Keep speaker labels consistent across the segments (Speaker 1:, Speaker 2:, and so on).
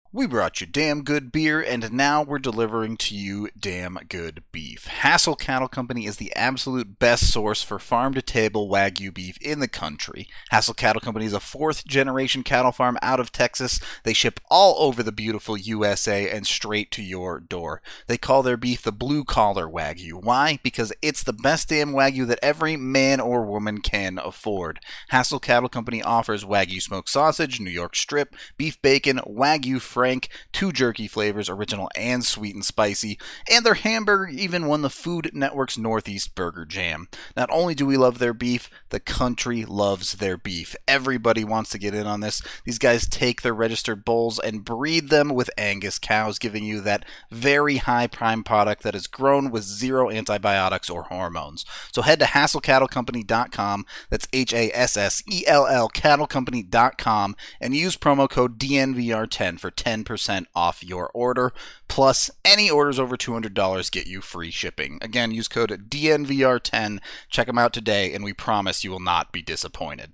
Speaker 1: We brought you damn good beer, and now we're delivering to you damn good beef. Hassel Cattle Company is the absolute best source for farm-to-table Wagyu beef in the country. Hassel Cattle Company is a fourth-generation cattle farm out of Texas. They ship all over the beautiful USA and straight to your door. They call their beef the blue-collar Wagyu. Why? Because it's the best damn Wagyu that every man or woman can afford. Hassel Cattle Company offers Wagyu smoked sausage, New York strip, beef bacon, Wagyu Frank, 2 jerky flavors, original and sweet and spicy, and their hamburger even won the Food Network's Northeast Burger Jam. Not only do we love their beef, the country loves their beef. Everybody wants to get in on this. These guys take their registered bulls and breed them with Angus cows, giving you that very high prime product that is grown with zero antibiotics or hormones. So head to hassellcattlecompany.com, that's HASSELL cattlecompany.com, and use promo code DNVR10 for 10% off your order. Plus, any orders over $200 get you free shipping. Again, use code DNVR10. Check them out today, and we promise you will not be disappointed.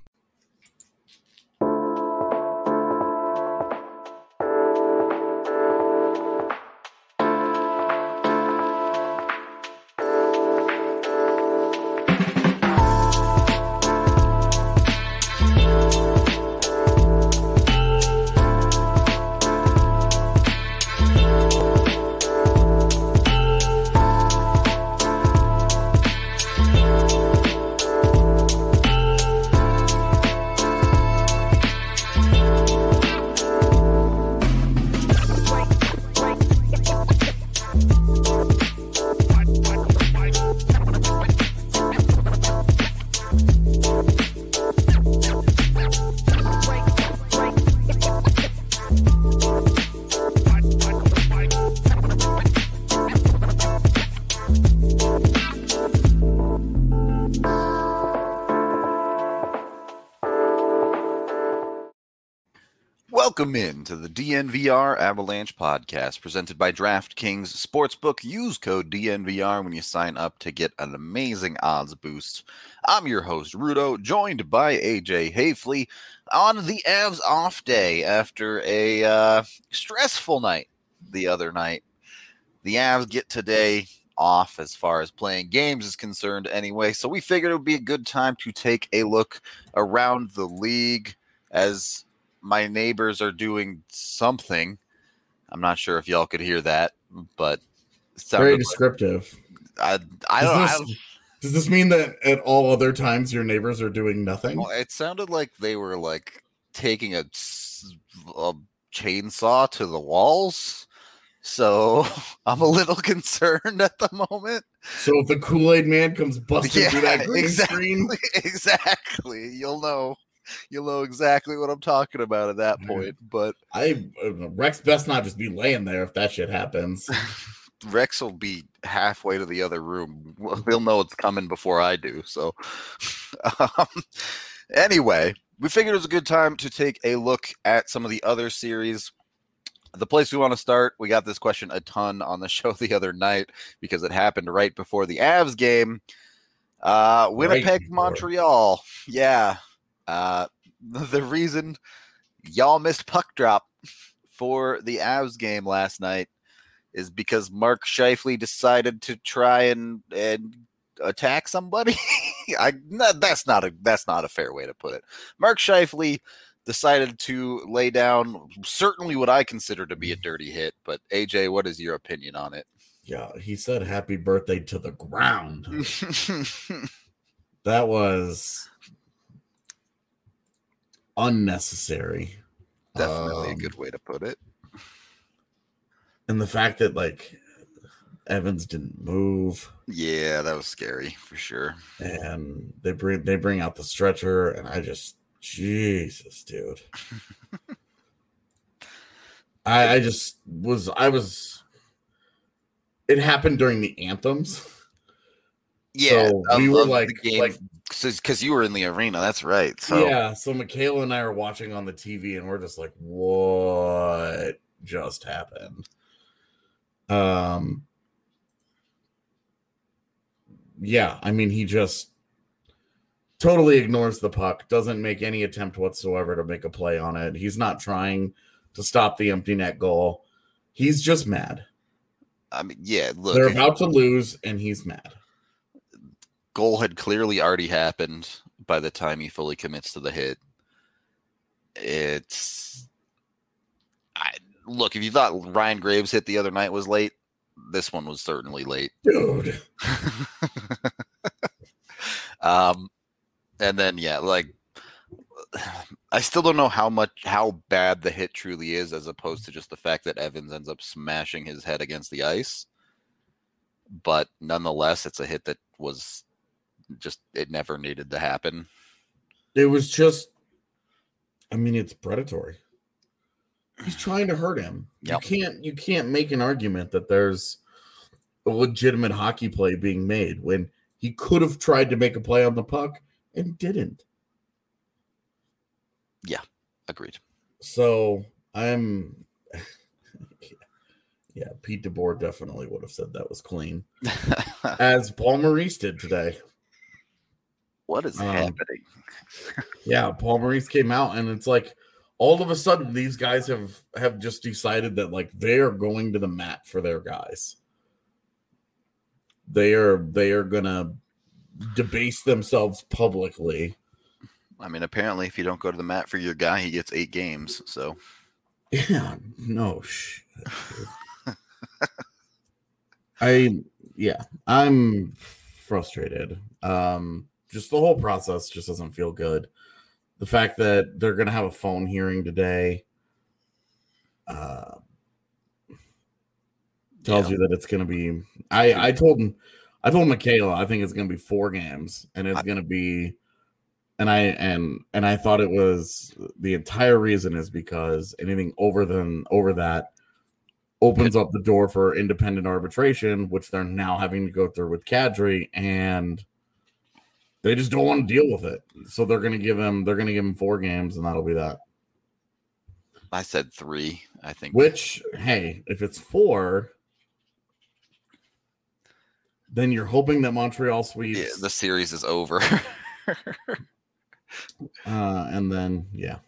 Speaker 1: Welcome in to the DNVR Avalanche podcast presented by DraftKings Sportsbook. Use code DNVR when you sign up to get an amazing odds boost. I'm your host, Rudo, joined by AJ Hafley on the Avs off day after a stressful night the other night. The Avs get today off as far as playing games is concerned anyway, so we figured it would be a good time to take a look around the league as my neighbors are doing something. I'm not sure if y'all could hear that, but it
Speaker 2: very descriptive.
Speaker 1: I don't.
Speaker 2: Does this mean that at all other times your neighbors are doing nothing?
Speaker 1: Well, it sounded like they were like taking a chainsaw to the walls. So I'm a little concerned at the moment.
Speaker 2: So if the Kool-Aid Man comes busting through that green screen,
Speaker 1: exactly, you'll know exactly what I'm talking about at that point. But
Speaker 2: Rex best not just be laying there if that shit happens.
Speaker 1: Rex will be halfway to the other room. He'll know it's coming before I do. So anyway, we figured it was a good time to take a look at some of the other series. The place we want to start, we got this question a ton on the show the other night because it happened right before the Avs game. Winnipeg, Montreal. Yeah. The reason y'all missed puck drop for the Avs game last night is because Mark Scheifele decided to try and attack somebody. That's not a fair way to put it. Mark Scheifele decided to lay down certainly what I consider to be a dirty hit. But AJ, what is your opinion on it?
Speaker 2: Yeah, he said happy birthday to the ground. That was unnecessary.
Speaker 1: Definitely a good way to put it.
Speaker 2: And the fact that like Evans didn't move.
Speaker 1: Yeah, that was scary for sure.
Speaker 2: And they bring out the stretcher, and I just Jesus, dude. I was. It happened during the anthems.
Speaker 1: Yeah,
Speaker 2: so we were like
Speaker 1: because you were in the arena. That's right. So
Speaker 2: yeah, so Michaela and I are watching on the TV, and we're just like, "What just happened?" Yeah, I mean, he just totally ignores the puck, doesn't make any attempt whatsoever to make a play on it. He's not trying to stop the empty net goal. He's just mad.
Speaker 1: I mean, yeah, look.
Speaker 2: They're about to lose, and he's mad.
Speaker 1: Goal had clearly already happened by the time he fully commits to the hit. Look, if you thought Ryan Graves' hit the other night was late, this one was certainly late.
Speaker 2: Dude.
Speaker 1: And then, yeah, like, I still don't know how bad the hit truly is, as opposed to just the fact that Evans ends up smashing his head against the ice. But nonetheless, it's a hit that was just, it never needed to happen.
Speaker 2: It was just, I mean, it's predatory. He's trying to hurt him.
Speaker 1: Yep.
Speaker 2: You can't make an argument that there's a legitimate hockey play being made when he could have tried to make a play on the puck and didn't.
Speaker 1: Yeah, agreed.
Speaker 2: So I'm, yeah, Pete DeBoer definitely would have said that was clean, as Paul Maurice did today.
Speaker 1: What is happening?
Speaker 2: Yeah, Paul Maurice came out, and it's like all of a sudden these guys have just decided that like they are going to the mat for their guys. They are gonna debase themselves publicly.
Speaker 1: I mean, apparently, if you don't go to the mat for your guy, he gets 8 games. So,
Speaker 2: yeah, no shit. I'm frustrated. Just the whole process just doesn't feel good. The fact that they're gonna have a phone hearing today tells you that it's gonna be. I told Michaela I think it's gonna be 4 games, and it's gonna be. And I thought it was the entire reason is because anything over that opens up the door for independent arbitration, which they're now having to go through with Kadri, and they just don't want to deal with it. So they're gonna give him 4 games, and that'll be that.
Speaker 1: I said 3, I think.
Speaker 2: Which, hey, if it's 4, then you're hoping that Montreal sweeps.
Speaker 1: Yeah, the series is over.
Speaker 2: And then, yeah.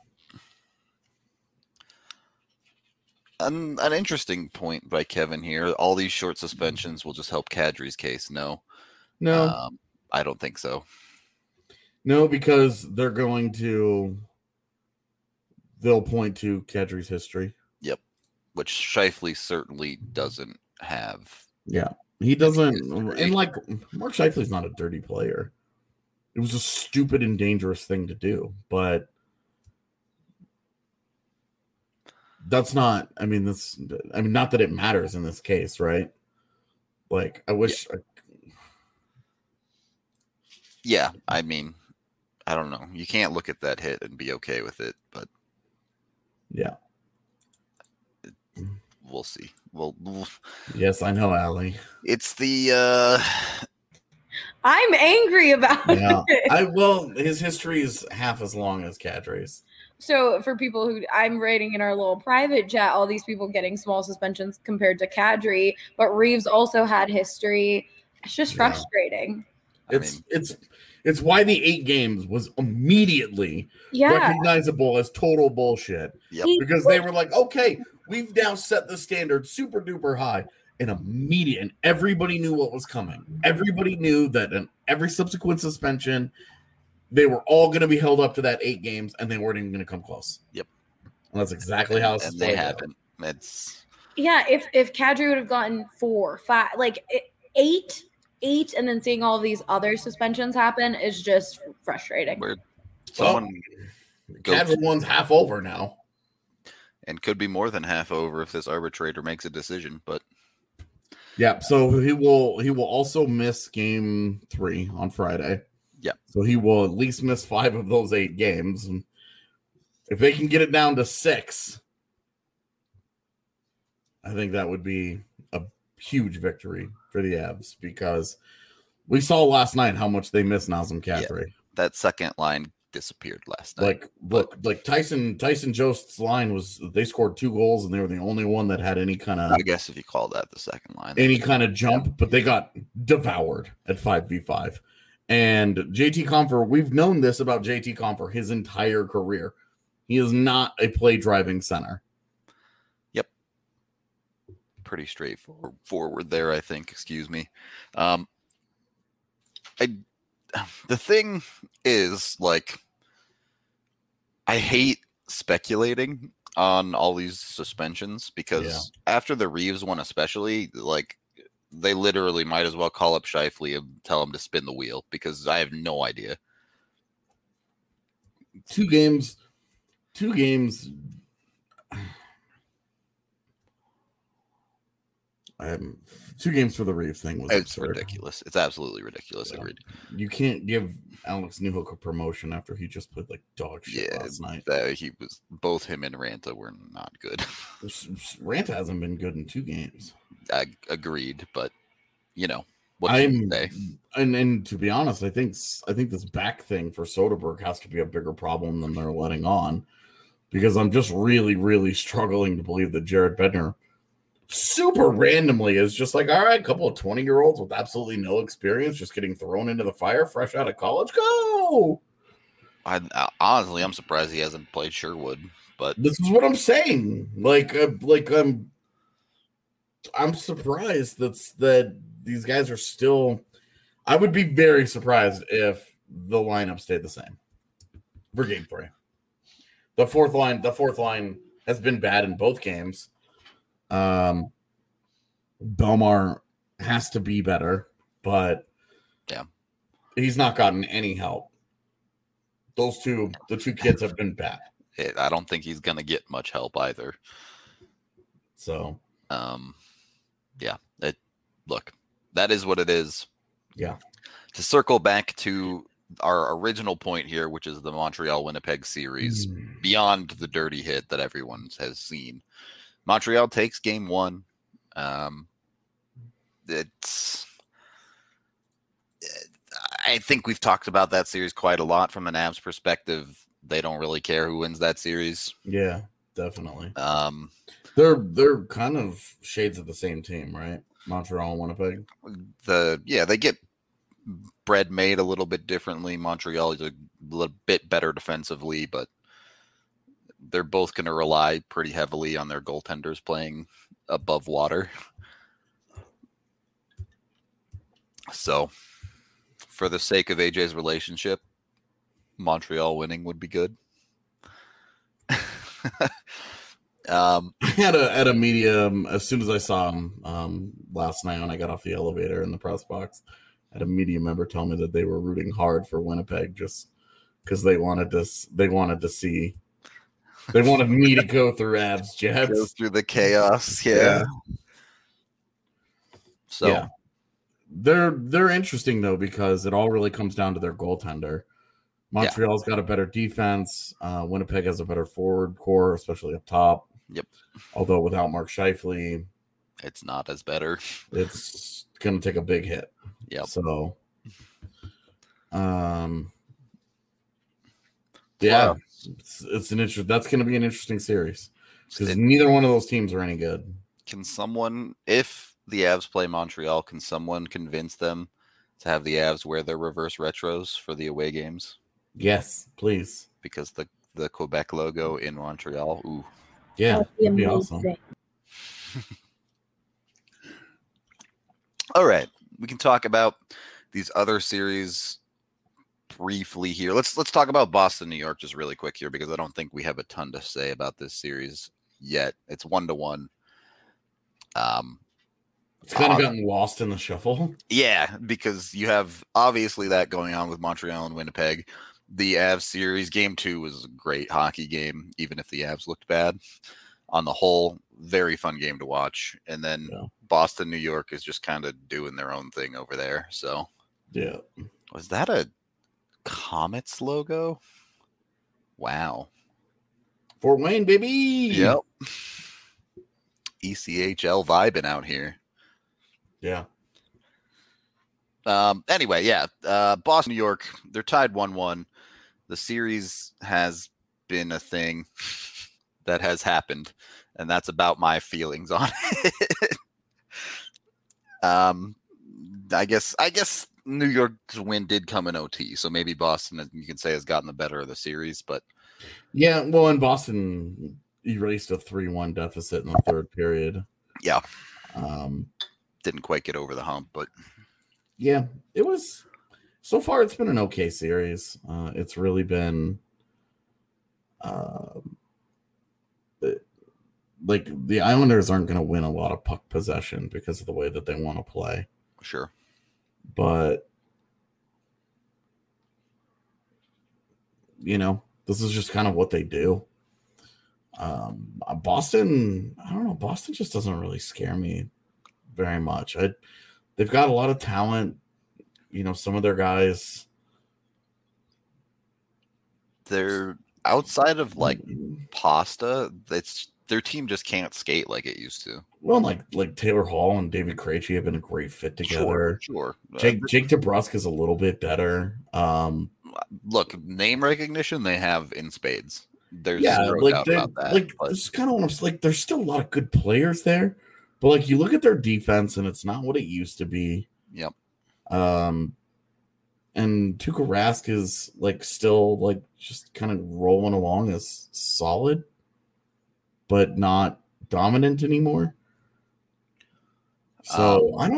Speaker 1: An interesting point by Kevin here. All these short suspensions will just help Kadri's case. No, I don't think so.
Speaker 2: No, because they'll point to Kadri's history.
Speaker 1: Yep, which Scheifele certainly doesn't have.
Speaker 2: Yeah, he doesn't. And like Mark Scheifele's not a dirty player. It was a stupid and dangerous thing to do, but that's not. I mean, not that it matters in this case, right? Like, I wish.
Speaker 1: Yeah, I mean, I don't know. You can't look at that hit and be okay with it, but
Speaker 2: yeah,
Speaker 1: we'll see.
Speaker 2: Yes, I know, Allie.
Speaker 1: It's the.
Speaker 3: I'm angry about it.
Speaker 2: His history is half as long as Kadri's.
Speaker 3: So for people who I'm writing in our little private chat, all these people getting small suspensions compared to Kadri, but Reeves also had history. It's just frustrating.
Speaker 2: It's why the 8 games was immediately recognizable as total bullshit.
Speaker 1: Yep.
Speaker 2: Because they were like, okay, we've now set the standard super duper high. And everybody knew what was coming. Everybody knew that in every subsequent suspension, they were all going to be held up to that 8 games, and they weren't even going to come close.
Speaker 1: Yep.
Speaker 2: And that's exactly how it's.
Speaker 1: And they haven't.
Speaker 3: If Kadri would have gotten 4, 5, like 8, and then seeing all these other suspensions happen is just frustrating.
Speaker 2: Kadri one's half over now,
Speaker 1: and could be more than half over if this arbitrator makes a decision, but.
Speaker 2: Yeah, so he will also miss game 3 on Friday.
Speaker 1: Yeah.
Speaker 2: So he will at least miss 5 of those 8 games. And if they can get it down to 6, I think that would be a huge victory for the Avs, because we saw last night how much they miss Nazem Kadri.
Speaker 1: Yeah, that second line disappeared last night.
Speaker 2: Like Tyson Jost's line was, they scored 2 goals and they were the only one that had any kind of,
Speaker 1: I guess if you call that the second line,
Speaker 2: any kind of jump, but they got devoured at 5v5. And JT Compher, we've known this about JT Compher his entire career. He is not a play driving center.
Speaker 1: pretty straightforward there, I think. Excuse me. The thing is, like, I hate speculating on all these suspensions because after the Reeves one, especially, like, they literally might as well call up Scheifele and tell him to spin the wheel because I have no idea.
Speaker 2: Two games. Two games for the Reeves thing was absurd.
Speaker 1: Ridiculous. It's absolutely ridiculous.
Speaker 2: Yeah.
Speaker 1: Agreed.
Speaker 2: You can't give Alex Newhook a promotion after he just played like dog shit last night.
Speaker 1: Both him and Ranta were not good.
Speaker 2: Ranta hasn't been good in 2 games.
Speaker 1: Agreed, but what can you say?
Speaker 2: And to be honest, I think this back thing for Soderbergh has to be a bigger problem than they're letting on, because I'm just really, really struggling to believe that Jared Bednar super randomly is just like, all right, a couple of 20-year-olds with absolutely no experience just getting thrown into the fire fresh out of college. Go!
Speaker 1: Honestly, I'm surprised he hasn't played Sherwood, but
Speaker 2: this is what I'm saying. I'm surprised that these guys are still. I would be very surprised if the lineup stayed the same for game 3. The fourth line has been bad in both games. Belmar has to be better, but he's not gotten any help. The two kids have been bad.
Speaker 1: I don't think he's gonna get much help either.
Speaker 2: So,
Speaker 1: look, that is what it is.
Speaker 2: Yeah.
Speaker 1: To circle back to our original point here, which is the Montreal-Winnipeg series, beyond the dirty hit that everyone has seen. Montreal takes game 1. I think we've talked about that series quite a lot from an Avs perspective. They don't really care who wins that series.
Speaker 2: Yeah, definitely. They're kind of shades of the same team, right? Montreal and Winnipeg.
Speaker 1: They get bread made a little bit differently. Montreal is a little bit better defensively, but they're both going to rely pretty heavily on their goaltenders playing above water. So, for the sake of AJ's relationship, Montreal winning would be good.
Speaker 2: At a medium, as soon as I saw him last night when I got off the elevator in the press box, I had a media member tell me that they were rooting hard for Winnipeg just because they wanted me to go through Avs Jets.
Speaker 1: Go through the chaos, yeah. So
Speaker 2: yeah. They're interesting though, because it all really comes down to their goaltender. Montreal's got a better defense. Winnipeg has a better forward core, especially up top.
Speaker 1: Yep.
Speaker 2: Although without Mark Scheifele,
Speaker 1: it's not as better.
Speaker 2: It's going to take a big hit.
Speaker 1: Yep.
Speaker 2: So, it's an interesting. That's going to be an interesting series because neither one of those teams are any good.
Speaker 1: Can someone, if the Avs play Montreal, can someone convince them to have the Avs wear their reverse retros for the away games?
Speaker 2: Yes, please.
Speaker 1: Because the Quebec logo in Montreal. Ooh.
Speaker 2: Yeah, that'd be awesome.
Speaker 1: All right, we can talk about these other series briefly here. Let's talk about Boston, New York, just really quick here, because I don't think we have a ton to say about this series yet. It's 1-1.
Speaker 2: It's kind of gotten lost in the shuffle.
Speaker 1: Yeah, because you have obviously that going on with Montreal and Winnipeg. The Avs series, game 2 was a great hockey game, even if the Avs looked bad. On the whole, very fun game to watch. And then Boston, New York is just kind of doing their own thing over there. So,
Speaker 2: yeah.
Speaker 1: Was that a Comets logo? Wow.
Speaker 2: Fort Wayne, baby.
Speaker 1: Yep. ECHL vibing out here.
Speaker 2: Yeah.
Speaker 1: Anyway, Boston, New York, they're tied 1-1. The series has been a thing that has happened, and that's about my feelings on it. I guess New York's win did come in OT, so maybe Boston, you can say, has gotten the better of the series, but
Speaker 2: yeah, well, in Boston erased a 3-1 deficit in the third period.
Speaker 1: Yeah. Didn't quite get over the hump, but
Speaker 2: yeah, it was. So far, it's been an okay series. It's really been, like the Islanders aren't going to win a lot of puck possession because of the way that they want to play.
Speaker 1: Sure,
Speaker 2: but this is just kind of what they do. Boston, I don't know. Boston just doesn't really scare me very much. They've got a lot of talent. Some of their guys.
Speaker 1: They're outside of like Pasta. Their team just can't skate like it used to.
Speaker 2: Well, like Taylor Hall and David Krejci have been a great fit together.
Speaker 1: Sure.
Speaker 2: Jake DeBrusk is a little bit better.
Speaker 1: Look, name recognition they have in spades. There's
Speaker 2: zero
Speaker 1: doubt about that.
Speaker 2: This is kind of what I'm like. There's still a lot of good players there, but like you look at their defense and it's not what it used to be.
Speaker 1: Yep.
Speaker 2: And Tuukka Rask is like still like just kind of rolling along as solid, but not dominant anymore. So I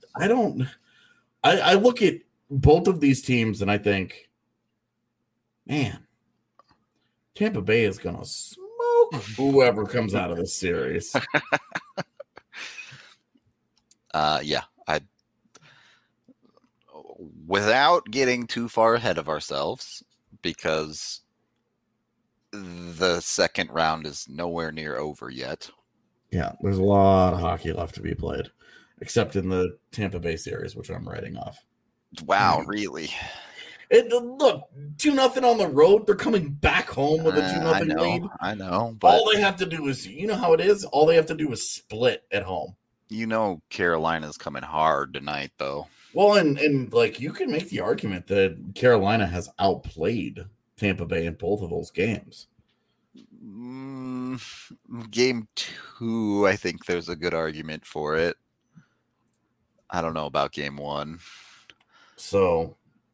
Speaker 2: look at both of these teams and I think, man, Tampa Bay is going to smoke whoever comes out of this series.
Speaker 1: Without getting too far ahead of ourselves, because the second round is nowhere near over yet.
Speaker 2: Yeah, there's a lot of hockey left to be played, except in the Tampa Bay series, which I'm writing off.
Speaker 1: Wow, really?
Speaker 2: Look, 2-0 on the road. They're coming back home with a 2-0 lead.
Speaker 1: I know. But
Speaker 2: all they have to do is, you know how it is? All they have to do is split at home.
Speaker 1: Carolina's coming hard tonight, though.
Speaker 2: Well, and like you can make the argument that Carolina has outplayed Tampa Bay in both of those games.
Speaker 1: Game 2, I think there's a good argument for it. I don't know about game 1.
Speaker 2: So,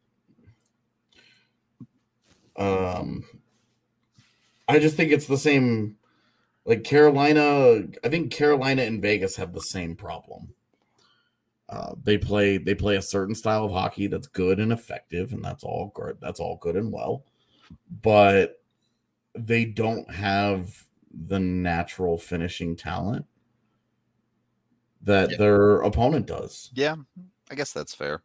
Speaker 2: I just think it's the same. Like Carolina, I think Carolina and Vegas have the same problem. They play a certain style of hockey that's good and effective, and that's all good. That's all good and well, but they don't have the natural finishing talent that their opponent does.
Speaker 1: Yeah, I guess that's fair.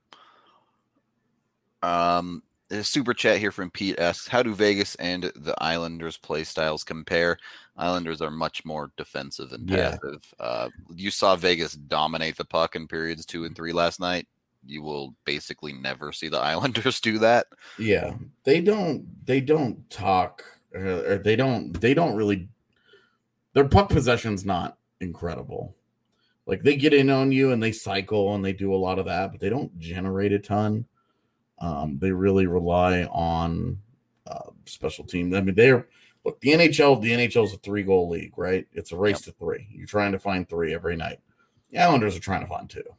Speaker 1: A super chat here from Pete asks, how do Vegas and the Islanders play styles compare? Islanders are much more defensive and passive. You saw Vegas dominate the puck in periods 2 and 3 last night. You will basically never see the Islanders do that.
Speaker 2: Yeah, they don't talk, or they don't really. Their puck possession's not incredible. Like they get in on you and they cycle and they do a lot of that, but they don't generate a ton. They really rely on special teams. I mean, the NHL is a 3-goal league, right? It's a race to 3. You're trying to find 3 every night. The Islanders are trying to find 2.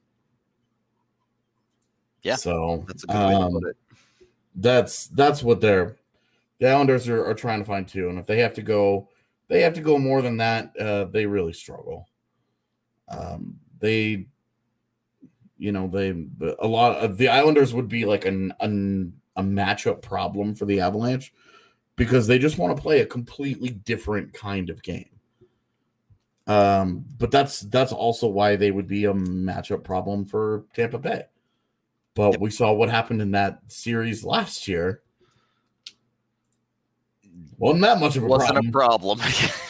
Speaker 1: Yeah,
Speaker 2: so
Speaker 1: that's a good way to put it.
Speaker 2: That's what the Islanders are trying to find 2, and if they have to go more than that, they really struggle. A lot of the Islanders would be like a matchup problem for the Avalanche because they just want to play a completely different kind of game. But that's also why they would be a matchup problem for Tampa Bay. But we saw what happened in that series last year. Wasn't that much of a problem.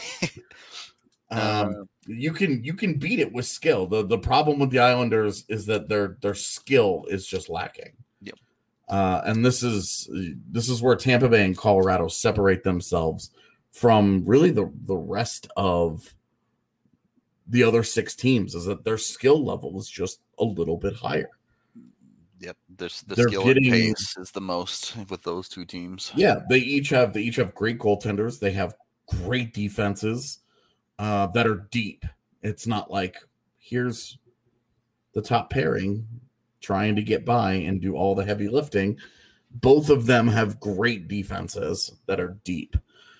Speaker 2: You can beat it with skill. The problem with the Islanders is that their skill is just lacking.
Speaker 1: Yep.
Speaker 2: And this is where Tampa Bay and Colorado separate themselves from really the rest of the other 6 teams, is that their skill level is just a little bit higher.
Speaker 1: Yep, the skill and pace is the most with those 2 teams.
Speaker 2: Yeah, they each have great goaltenders. They have great defenses that are deep. It's not like here's the top pairing trying to get by and do all the heavy lifting. Both of them have great defenses that are deep,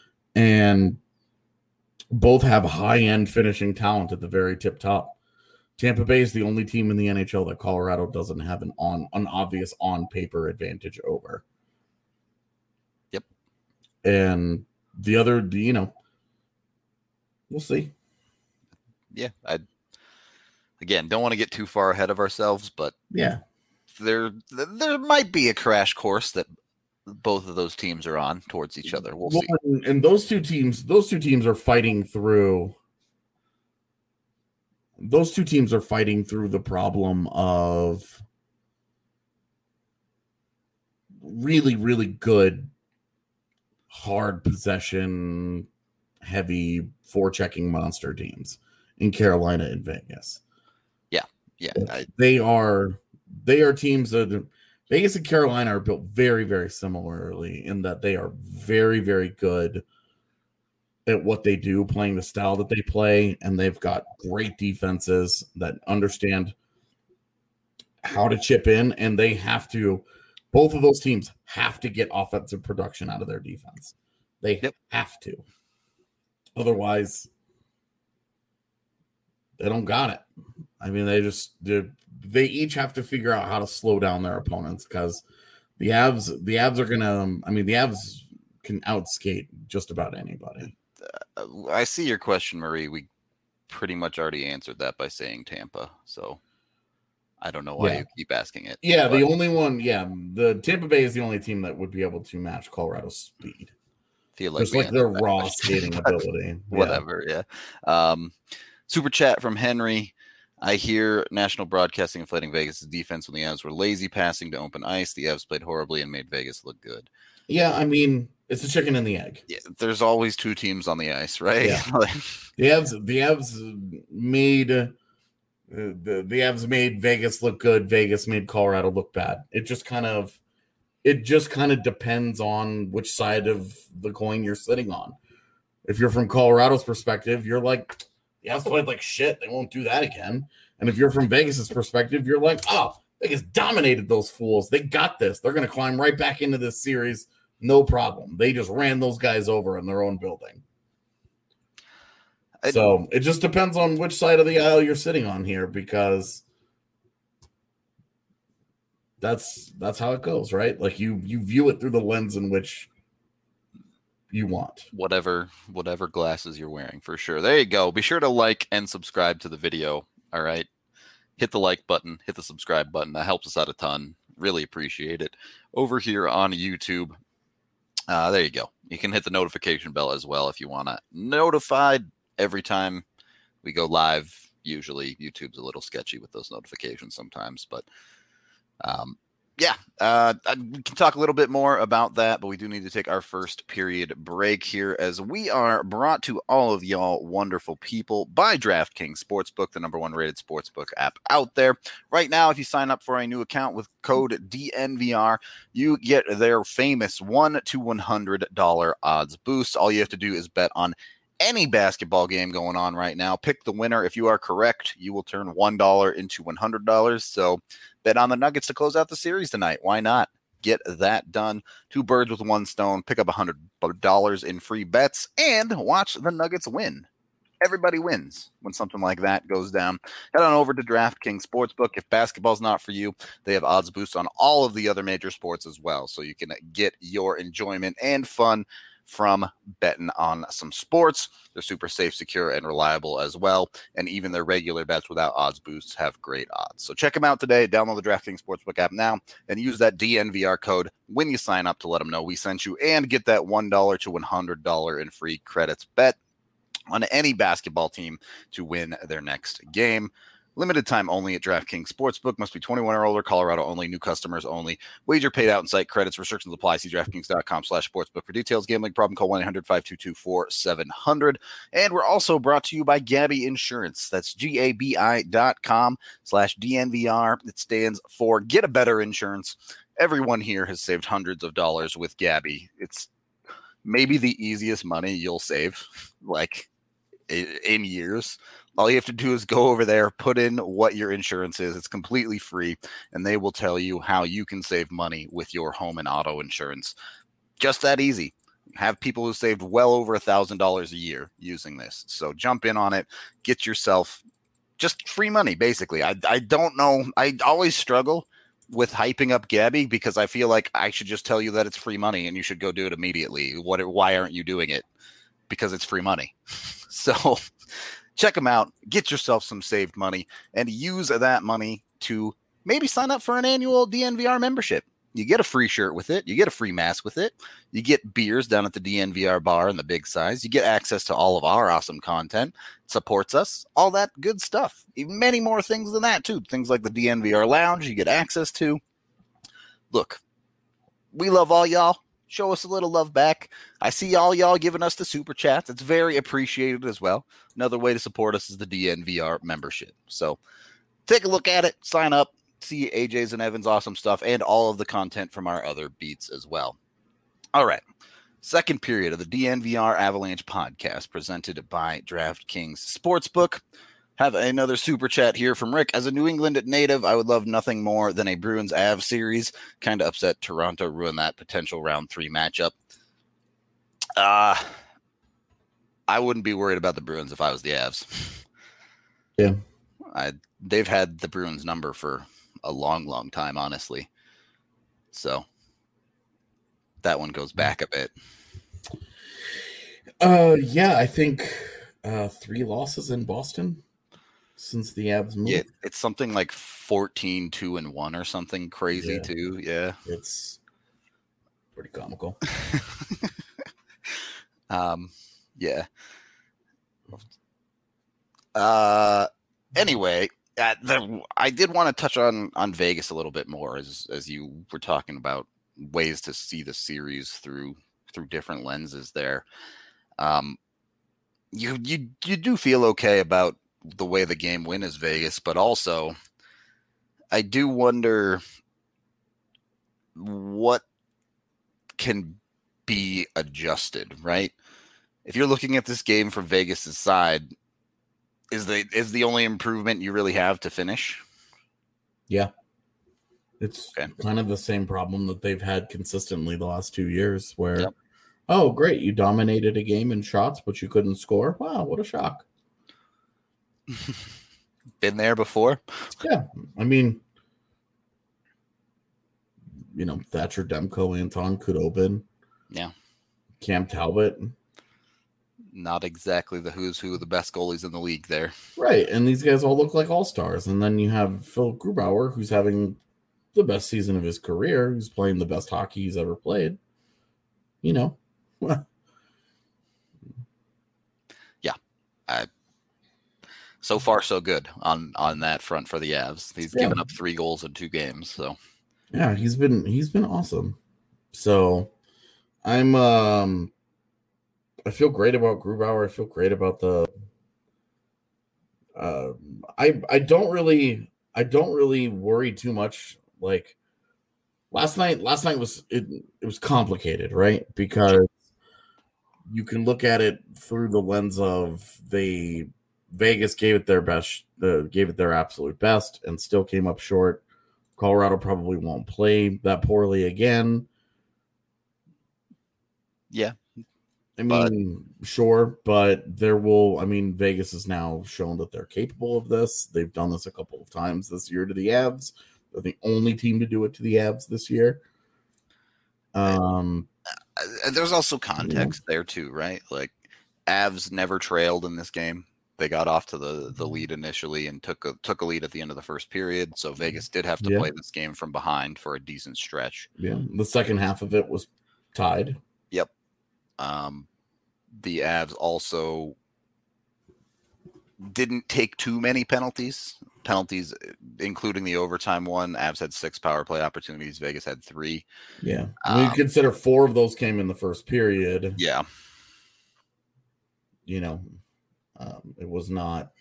Speaker 2: and both have high-end finishing talent at the very tip top. Tampa Bay is the only team in the NHL that Colorado doesn't have an obvious on paper advantage over.
Speaker 1: Yep.
Speaker 2: And the other, we'll see.
Speaker 1: Yeah, again, don't want to get too far ahead of ourselves, but
Speaker 2: yeah,
Speaker 1: there might be a crash course that both of those teams are on towards each other. We'll see.
Speaker 2: And those two teams are fighting through. Those two teams are fighting through the problem of really, really good, hard possession, heavy forechecking monster teams in Carolina and Vegas.
Speaker 1: Yeah,
Speaker 2: they are teams that Vegas and Carolina are built very, very similarly in that they are very, very good at what they do, playing the style that they play, and they've got great defenses that understand how to chip in, and they have to. Both of those teams have to get offensive production out of their defense. They have to. Otherwise, they don't got it. I mean, they each have to figure out how to slow down their opponents because the Avs are gonna. I mean, the Avs can outskate just about anybody.
Speaker 1: I see your question, Marie. We pretty much already answered that by saying Tampa. So I don't know why you keep asking it.
Speaker 2: Yeah, the only one. Yeah, the Tampa Bay is the only team that would be able to match Colorado's speed.
Speaker 1: Feel like
Speaker 2: just like their raw skating ability.
Speaker 1: Whatever. Yeah. Super chat from Henry. I hear national broadcasting inflating Vegas' defense when the Avs were lazy passing to open ice. The Avs played horribly and made Vegas look good.
Speaker 2: Yeah, I mean, it's a chicken and the egg.
Speaker 1: Yeah, there's always two teams on the ice, right?
Speaker 2: Yeah. the Avs made the Avs made Vegas look good. Vegas made Colorado look bad. It just kind of depends on which side of the coin you're sitting on. If you're from Colorado's perspective, you're like, the Avs played like shit. They won't do that again. And if you're from Vegas's perspective, you're like, oh, Vegas dominated those fools. They got this. They're going to climb right back into this series. No problem. They just ran those guys over in their own building. So it just depends on which side of the aisle you're sitting on here, because that's how it goes, right? Like you view it through the lens in which you want.
Speaker 1: Whatever glasses you're wearing, for sure. There you go. Be sure to like and subscribe to the video. All right. Hit the like button, hit the subscribe button. That helps us out a ton. Really appreciate it. Over here on YouTube. There you go. You can hit the notification bell as well if you want to notified every time we go live. Usually YouTube's a little sketchy with those notifications sometimes, but we can talk a little bit more about that, but we do need to take our first period break here as we are brought to all of y'all wonderful people by DraftKings Sportsbook, the #1 rated sportsbook app out there. Right now, if you sign up for a new account with code DNVR, you get their famous $1 to $100 odds boost. All you have to do is bet on any basketball game going on right now. Pick the winner. If you are correct, you will turn $1 into $100. So bet on the Nuggets to close out the series tonight. Why not? Get that done. 2 birds with 1 stone. Pick up $100 in free bets and watch the Nuggets win. Everybody wins when something like that goes down. Head on over to DraftKings Sportsbook. If basketball's not for you, they have odds boosts on all of the other major sports as well. So you can get your enjoyment and fun from betting on some sports. They're super safe, secure, and reliable as well. And even their regular bets without odds boosts have great odds. So check them out today. Download the DraftKings Sportsbook app now and use that DNVR code when you sign up to let them know we sent you and get that $1 to $100 in free credits. Bet on any basketball team to win their next game. Limited time only at DraftKings Sportsbook. Must be 21 or older. Colorado only. New customers only. Wager paid out in site credits. Restrictions apply. See DraftKings.com/sportsbook for details. Gambling problem? Call 1-800-522-4700. And we're also brought to you by Gabi Insurance. That's GABI.com/DNVR. It stands for Get a Better Insurance. Everyone here has saved hundreds of dollars with Gabi. It's maybe the easiest money you'll save, like in years. All you have to do is go over there, put in what your insurance is. It's completely free, and they will tell you how you can save money with your home and auto insurance. Just that easy. Have people who saved well over $1,000 a year using this. So jump in on it. Get yourself just free money, basically. I don't know. I always struggle with hyping up Gabby because I feel like I should just tell you that it's free money and you should go do it immediately. Why aren't you doing it? Because it's free money. So check them out, get yourself some saved money, and use that money to maybe sign up for an annual DNVR membership. You get a free shirt with it. You get a free mask with it. You get beers down at the DNVR bar in the big size. You get access to all of our awesome content. It supports us. All that good stuff. Even many more things than that, too. Things like the DNVR lounge you get access to. Look, we love all y'all. Show us a little love back. I see all y'all giving us the super chats. It's very appreciated as well. Another way to support us is the DNVR membership. So take a look at it. Sign up. See AJ's and Evan's awesome stuff and all of the content from our other beats as well. All right. Second period of the DNVR Avalanche podcast presented by DraftKings Sportsbook. Have another super chat here from Rick. As a New England native, I would love nothing more than a Bruins Avs series. Kind of upset Toronto ruined that potential round 3 matchup. I wouldn't be worried about the Bruins if I was the Avs.
Speaker 2: Yeah.
Speaker 1: They've had the Bruins number for a long time, honestly. So that one goes back a bit.
Speaker 2: Yeah, I think 3 losses in Boston since the Avs moved.
Speaker 1: Yeah, it's something like 14-2-1 or something crazy too. Yeah.
Speaker 2: It's pretty comical.
Speaker 1: Yeah. Anyway, I did want to touch on Vegas a little bit more as you were talking about ways to see the series through different lenses there. You do feel okay about the way the game went as Vegas, but also I do wonder what can be adjusted, right? If you're looking at this game from Vegas's side, is the only improvement you really have to finish?
Speaker 2: Yeah. It's kind of the same problem that they've had consistently the last 2 years where, oh, great, you dominated a game in shots, but you couldn't score. Wow, what a shock.
Speaker 1: Been there before?
Speaker 2: Yeah. I mean, Thatcher Demko, Anton Khudobin.
Speaker 1: Yeah.
Speaker 2: Cam Talbot.
Speaker 1: Not exactly the who's who of the best goalies in the league there.
Speaker 2: Right. And these guys all look like all-stars. And then you have Phil Grubauer, who's having the best season of his career, who's playing the best hockey he's ever played. Yeah.
Speaker 1: So far, so good on that front for the Avs. He's given up 3 goals in 2 games. So
Speaker 2: yeah, he's been awesome. So I feel great about Grubauer. I feel great about the. I don't really worry too much. Like last night was complicated, right? Because you can look at it through the lens of Vegas gave it their best, gave it their absolute best, and still came up short. Colorado probably won't play that poorly again.
Speaker 1: Yeah.
Speaker 2: I mean, sure, but Vegas has now shown that they're capable of this. They've done this a couple of times this year to the Avs. They're the only team to do it to the Avs this year.
Speaker 1: There's also context there too, right? Like Avs never trailed in this game. They got off to the lead initially and took a lead at the end of the first period. So Vegas did have to play this game from behind for a decent stretch.
Speaker 2: Yeah, the second half of it was tied.
Speaker 1: Yep. The Avs also didn't take too many penalties, including the overtime one. Avs had 6 power play opportunities. Vegas had 3.
Speaker 2: Yeah. You consider 4 of those came in the first period.
Speaker 1: Yeah.
Speaker 2: It was not.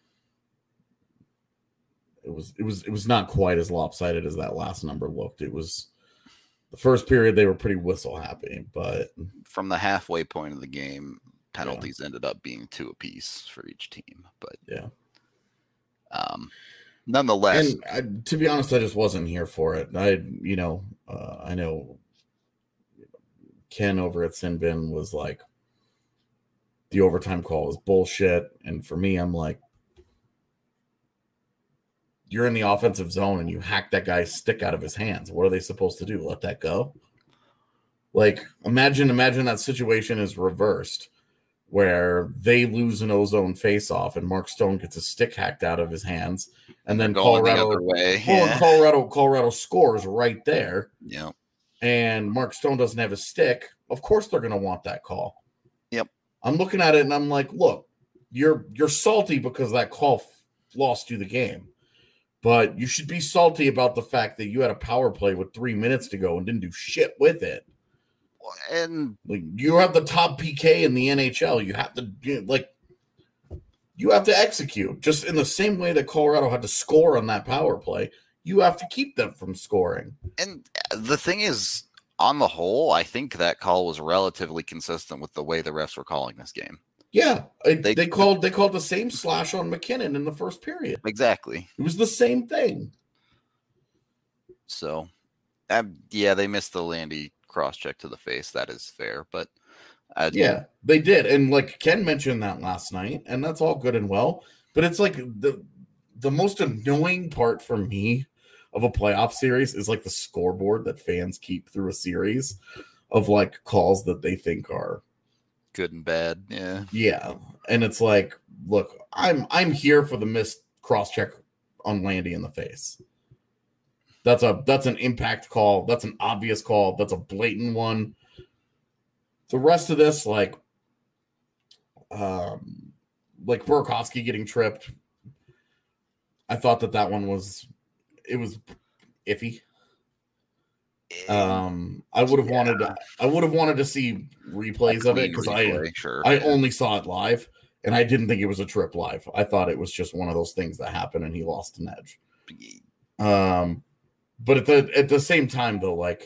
Speaker 2: It was not quite as lopsided as that last number looked. It was the first period they were pretty whistle happy, but
Speaker 1: from the halfway point of the game, penalties ended up being 2 apiece for each team. But nonetheless,
Speaker 2: and to be honest, I just wasn't here for it. I know Ken over at Sin Bin was like, the overtime call is bullshit. And for me, I'm like, you're in the offensive zone and you hack that guy's stick out of his hands. What are they supposed to do? Let that go? Like, imagine that situation is reversed, where they lose an ozone face-off and Mark Stone gets a stick hacked out of his hands, and then Colorado
Speaker 1: the other way.
Speaker 2: Colorado scores right there.
Speaker 1: Yeah.
Speaker 2: And Mark Stone doesn't have a stick. Of course they're going to want that call.
Speaker 1: Yep.
Speaker 2: I'm looking at it and I'm like, look, you're salty because that call lost you the game. But you should be salty about the fact that you had a power play with 3 minutes to go and didn't do shit with it.
Speaker 1: And
Speaker 2: like, you have the top PK in the NHL. You have to execute just in the same way that Colorado had to score on that power play. You have to keep them from scoring.
Speaker 1: And the thing is, on the whole, I think that call was relatively consistent with the way the refs were calling this game.
Speaker 2: Yeah, they called the same slash on McKinnon in the first period.
Speaker 1: Exactly.
Speaker 2: It was the same thing.
Speaker 1: So, yeah, they missed the Landy cross-check to the face. That is fair, but
Speaker 2: yeah, they did. And like Ken mentioned that last night, and that's all good and well. But it's like the most annoying part for me of a playoff series is like the scoreboard that fans keep through a series of like calls that they think are
Speaker 1: good and bad.
Speaker 2: Yeah. And it's like, look, I'm here for the missed cross-check on Landy in the face. That's an impact call. That's an obvious call. That's a blatant one. The rest of this, like Burakovsky getting tripped, I thought that one was iffy. I would have wanted to see replays of it because I only saw it live and I didn't think it was a trip live. I thought it was just one of those things that happened and he lost an edge. But at the same time though, like,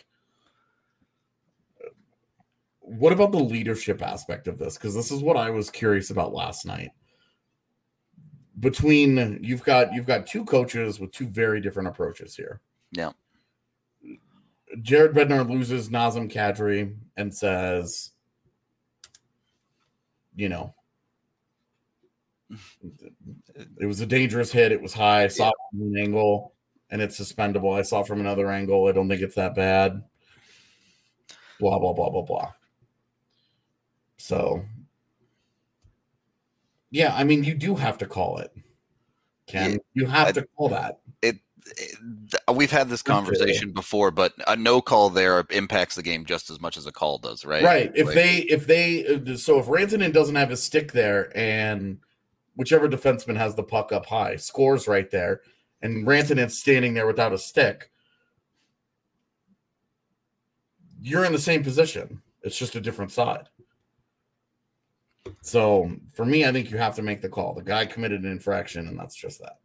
Speaker 2: what about the leadership aspect of this? Because this is what I was curious about last night. Between you've got two coaches with two very different approaches here.
Speaker 1: Yeah.
Speaker 2: Jared Bednar loses Nazem Kadri and says, you know, it was a dangerous hit. It was high. I saw it from an angle and it's suspendable. I saw it from another angle. I don't think it's that bad. Blah, blah, blah, blah, blah. So, yeah, I mean, you do have to call it, Ken. Yeah, you have to call that.
Speaker 1: We've had this conversation before, but a no call there impacts the game just as much as a call does, right?
Speaker 2: Right. If Rantanen doesn't have his stick there and whichever defenseman has the puck up high scores right there, and Rantanen's standing there without a stick, you're in the same position. It's just a different side. So for me, I think you have to make the call. The guy committed an infraction, and that's just that.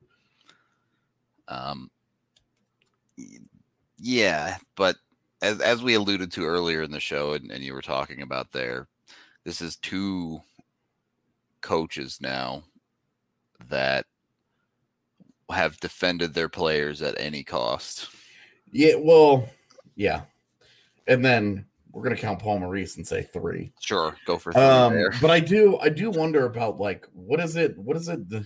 Speaker 1: Yeah, but as we alluded to earlier in the show, and you were talking about there, this is two coaches now that have defended their players at any cost.
Speaker 2: Yeah, well, yeah. And then we're going to count Paul Maurice and say 3.
Speaker 1: Sure, go for 3 there.
Speaker 2: But I do wonder about, like, what is it? The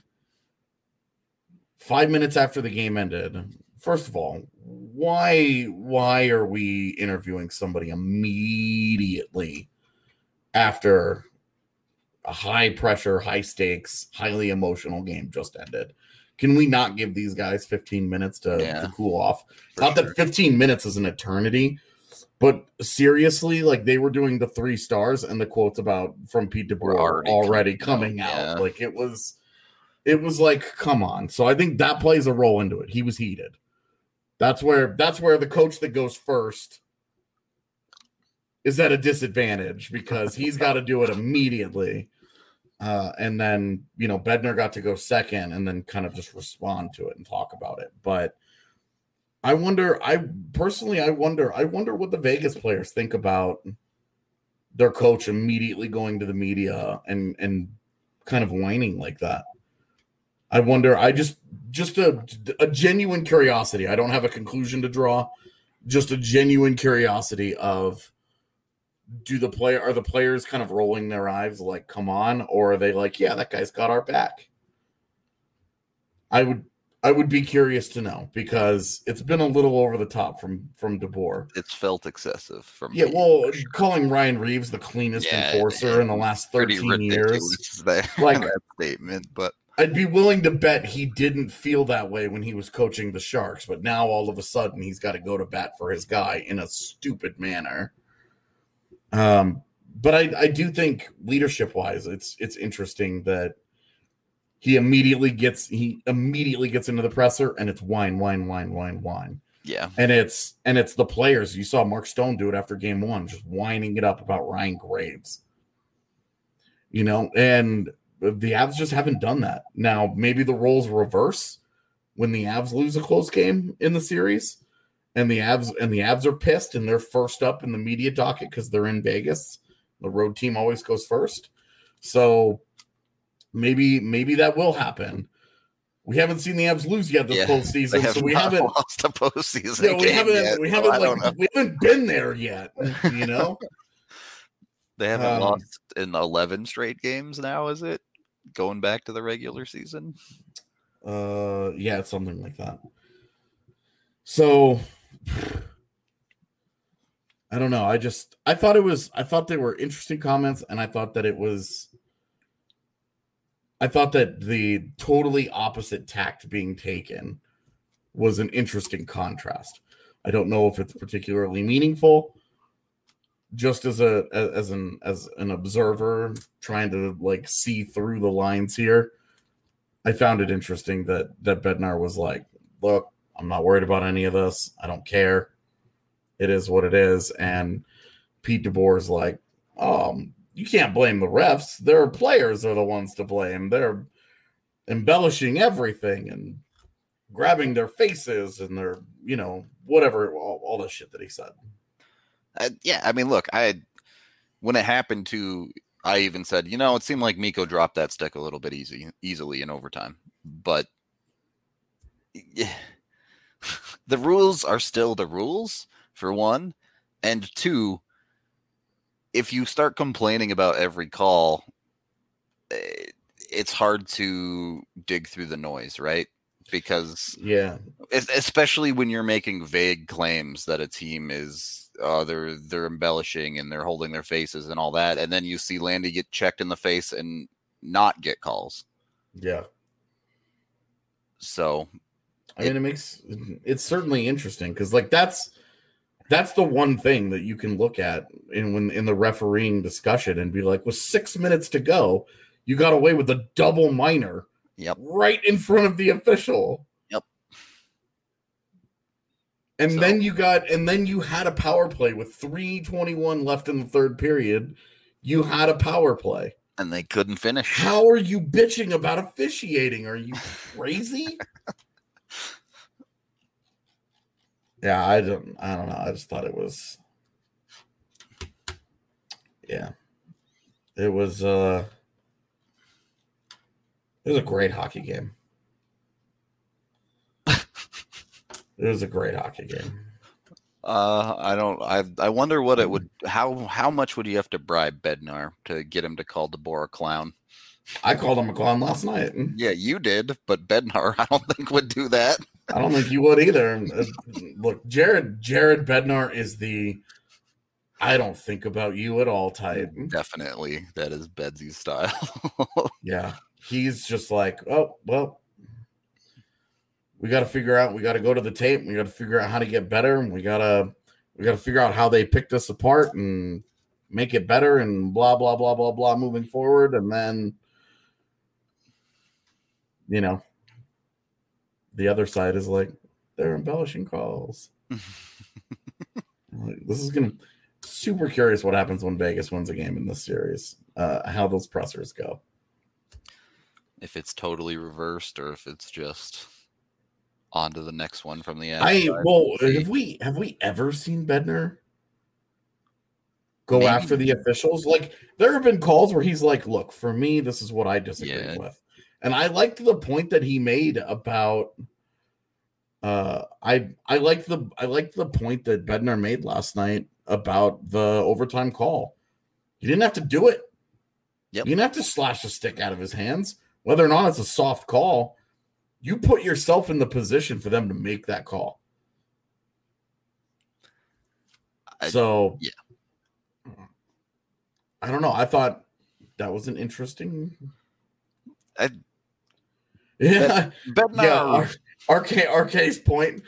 Speaker 2: 5 minutes after the game ended. First of all, why are we interviewing somebody immediately after a high pressure, high stakes, highly emotional game just ended? Can we not give these guys 15 minutes to cool off? Not that 15 minutes is an eternity, but seriously, like, they were doing the 3 stars and the quotes from Pete DeBoer already coming out. Yeah. Like, it was like, come on. So I think that plays a role into it. He was heated. That's where the coach that goes first is at a disadvantage because he's got to do it immediately. And then, you know, Bednar got to go second and then kind of just respond to it and talk about it. But I wonder what the Vegas players think about their coach immediately going to the media and kind of whining like that. I wonder, just a genuine curiosity. I don't have a conclusion to draw, just a genuine curiosity of, are the players kind of rolling their eyes like, come on, or are they like, yeah, that guy's got our back? I I would be curious to know because it's been a little over the top from DeBoer.
Speaker 1: It's felt excessive from
Speaker 2: Yeah,
Speaker 1: Pete,
Speaker 2: well,
Speaker 1: for sure.
Speaker 2: calling Ryan Reeves the cleanest enforcer in the last
Speaker 1: Pretty
Speaker 2: 13 years,
Speaker 1: ridiculous that,
Speaker 2: like
Speaker 1: that statement, but
Speaker 2: I'd be willing to bet he didn't feel that way when he was coaching the Sharks, but now all of a sudden he's got to go to bat for his guy in a stupid manner. But I do think leadership-wise, it's interesting that he immediately gets into the presser and it's whine.
Speaker 1: yeah.
Speaker 2: And it's the players. You saw Mark Stone do it after game 1, just whining it up about Ryan Graves. You know, and the Avs just haven't done that. Now, maybe the roles reverse when the Avs lose a close game in the series and the Avs are pissed and they're first up in the media docket because they're in Vegas. The road team always goes first. So maybe that will happen. We haven't seen the Avs lose yet this postseason, so we haven't
Speaker 1: lost a postseason.
Speaker 2: We haven't been there yet. You know,
Speaker 1: they haven't lost in 11 straight games now. Is it going back to the regular season?
Speaker 2: Yeah, it's something like that. So I don't know. I thought they were interesting comments, and I thought that the totally opposite tact being taken was an interesting contrast. I don't know if it's particularly meaningful. Just as an observer trying to like see through the lines here, I found it interesting that Bednar was like, "Look, I'm not worried about any of this. I don't care. It is what it is." And Pete DeBoer's like, you can't blame the refs. Their players are the ones to blame. They're embellishing everything and grabbing their faces and their, you know, whatever, all the shit that he said.
Speaker 1: Yeah, I mean, look, when it happened I even said, you know, it seemed like Mikko dropped that stick a little bit easily in overtime. But yeah, the rules are still the rules, for one. And two, if you start complaining about every call, it's hard to dig through the noise, right? Because especially when you're making vague claims that a team is they're embellishing and they're holding their faces and all that, and then you see Landy get checked in the face and not get calls.
Speaker 2: Yeah.
Speaker 1: So,
Speaker 2: I mean, it's certainly interesting because like that's the one thing that you can look at in the refereeing discussion and be like, with 6 minutes to go, you got away with a double minor.
Speaker 1: Yep.
Speaker 2: Right in front of the official.
Speaker 1: Yep.
Speaker 2: And then you had a power play with 3:21 left in the third period. You had a power play.
Speaker 1: And they couldn't finish.
Speaker 2: How are you bitching about officiating? Are you crazy? Yeah, I don't know. I just thought it was It was a great hockey game. It was a great hockey game.
Speaker 1: I wonder what it would. How much would you have to bribe Bednar to get him to call DeBoer a clown?
Speaker 2: I called him a clown last night.
Speaker 1: Yeah, you did, but Bednar, I don't think would do that.
Speaker 2: I don't think you would either. Look, Jared Bednar is the I don't think about you at all type.
Speaker 1: Definitely, that is Bedsy's style.
Speaker 2: Yeah, he's just like, oh well. We got to figure out. We got to go to the tape. We got to figure out how to get better. And we got to figure out how they picked us apart and make it better. And blah blah blah blah blah. Moving forward, and then, you know, the other side is like they're embellishing calls. This is gonna super curious what happens when Vegas wins a game in this series. How those pressers go.
Speaker 1: If it's totally reversed, or if it's just on to the next one from the end.
Speaker 2: Have we ever seen Bednar go after the officials? Like, there have been calls where he's like, look, for me, this is what I disagree with. And I liked the point that he made about I liked the point that Bednar made last night about the overtime call. He didn't have to do it.
Speaker 1: Yep.
Speaker 2: You didn't have to slash the stick out of his hands. Whether or not it's a soft call, you put yourself in the position for them to make that call. I don't know. I thought that was an interesting. RK's point.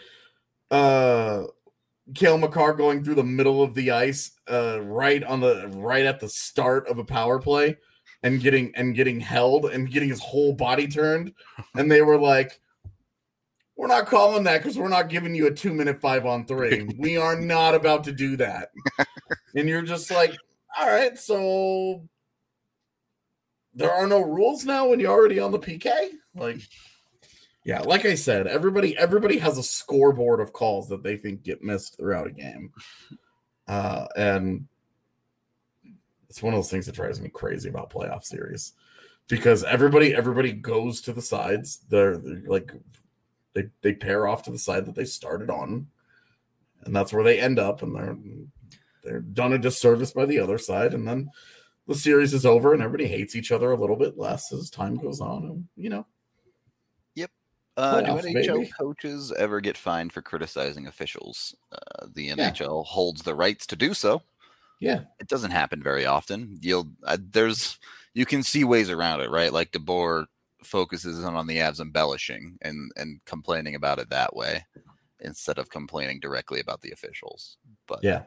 Speaker 2: Cale Makar going through the middle of the ice, right at the start of a power play, and getting held and getting his whole body turned, and they were like, "We're not calling that because we're not giving you a 2-minute 5-on-3. We are not about to do that." And you're just like, "All right, so there are no rules now when you're already on the PK?" Like, yeah, like I said, everybody has a scoreboard of calls that they think get missed throughout a game, and it's one of those things that drives me crazy about playoff series, because everybody goes to the sides. They're like they pair off to the side that they started on, and that's where they end up, and they're done a disservice by the other side, and then the series is over, and everybody hates each other a little bit less as time goes on, and
Speaker 1: Yep.
Speaker 2: Playoffs,
Speaker 1: Do NHL
Speaker 2: baby.
Speaker 1: coaches ever get fined for criticizing officials? The NHL holds the rights to do so.
Speaker 2: Yeah,
Speaker 1: it doesn't happen very often. You can see ways around it, right? Like DeBoer focuses on the Avs embellishing and complaining about it that way instead of complaining directly about the officials. But
Speaker 2: yeah.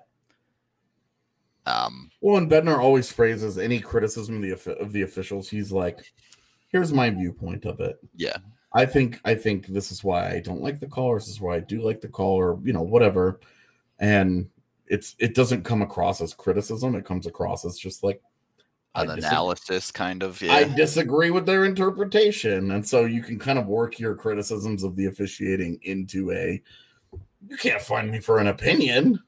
Speaker 2: Well, and Bednar always phrases any criticism of the officials. He's like, "Here's my viewpoint of it.
Speaker 1: Yeah,
Speaker 2: I think this is why I don't like the call, or this is why I do like the call, or whatever." And it doesn't come across as criticism. It comes across as just like
Speaker 1: an analysis, kind of. Yeah.
Speaker 2: I disagree with their interpretation, and so you can kind of work your criticisms of the officiating into you can't find me for an opinion.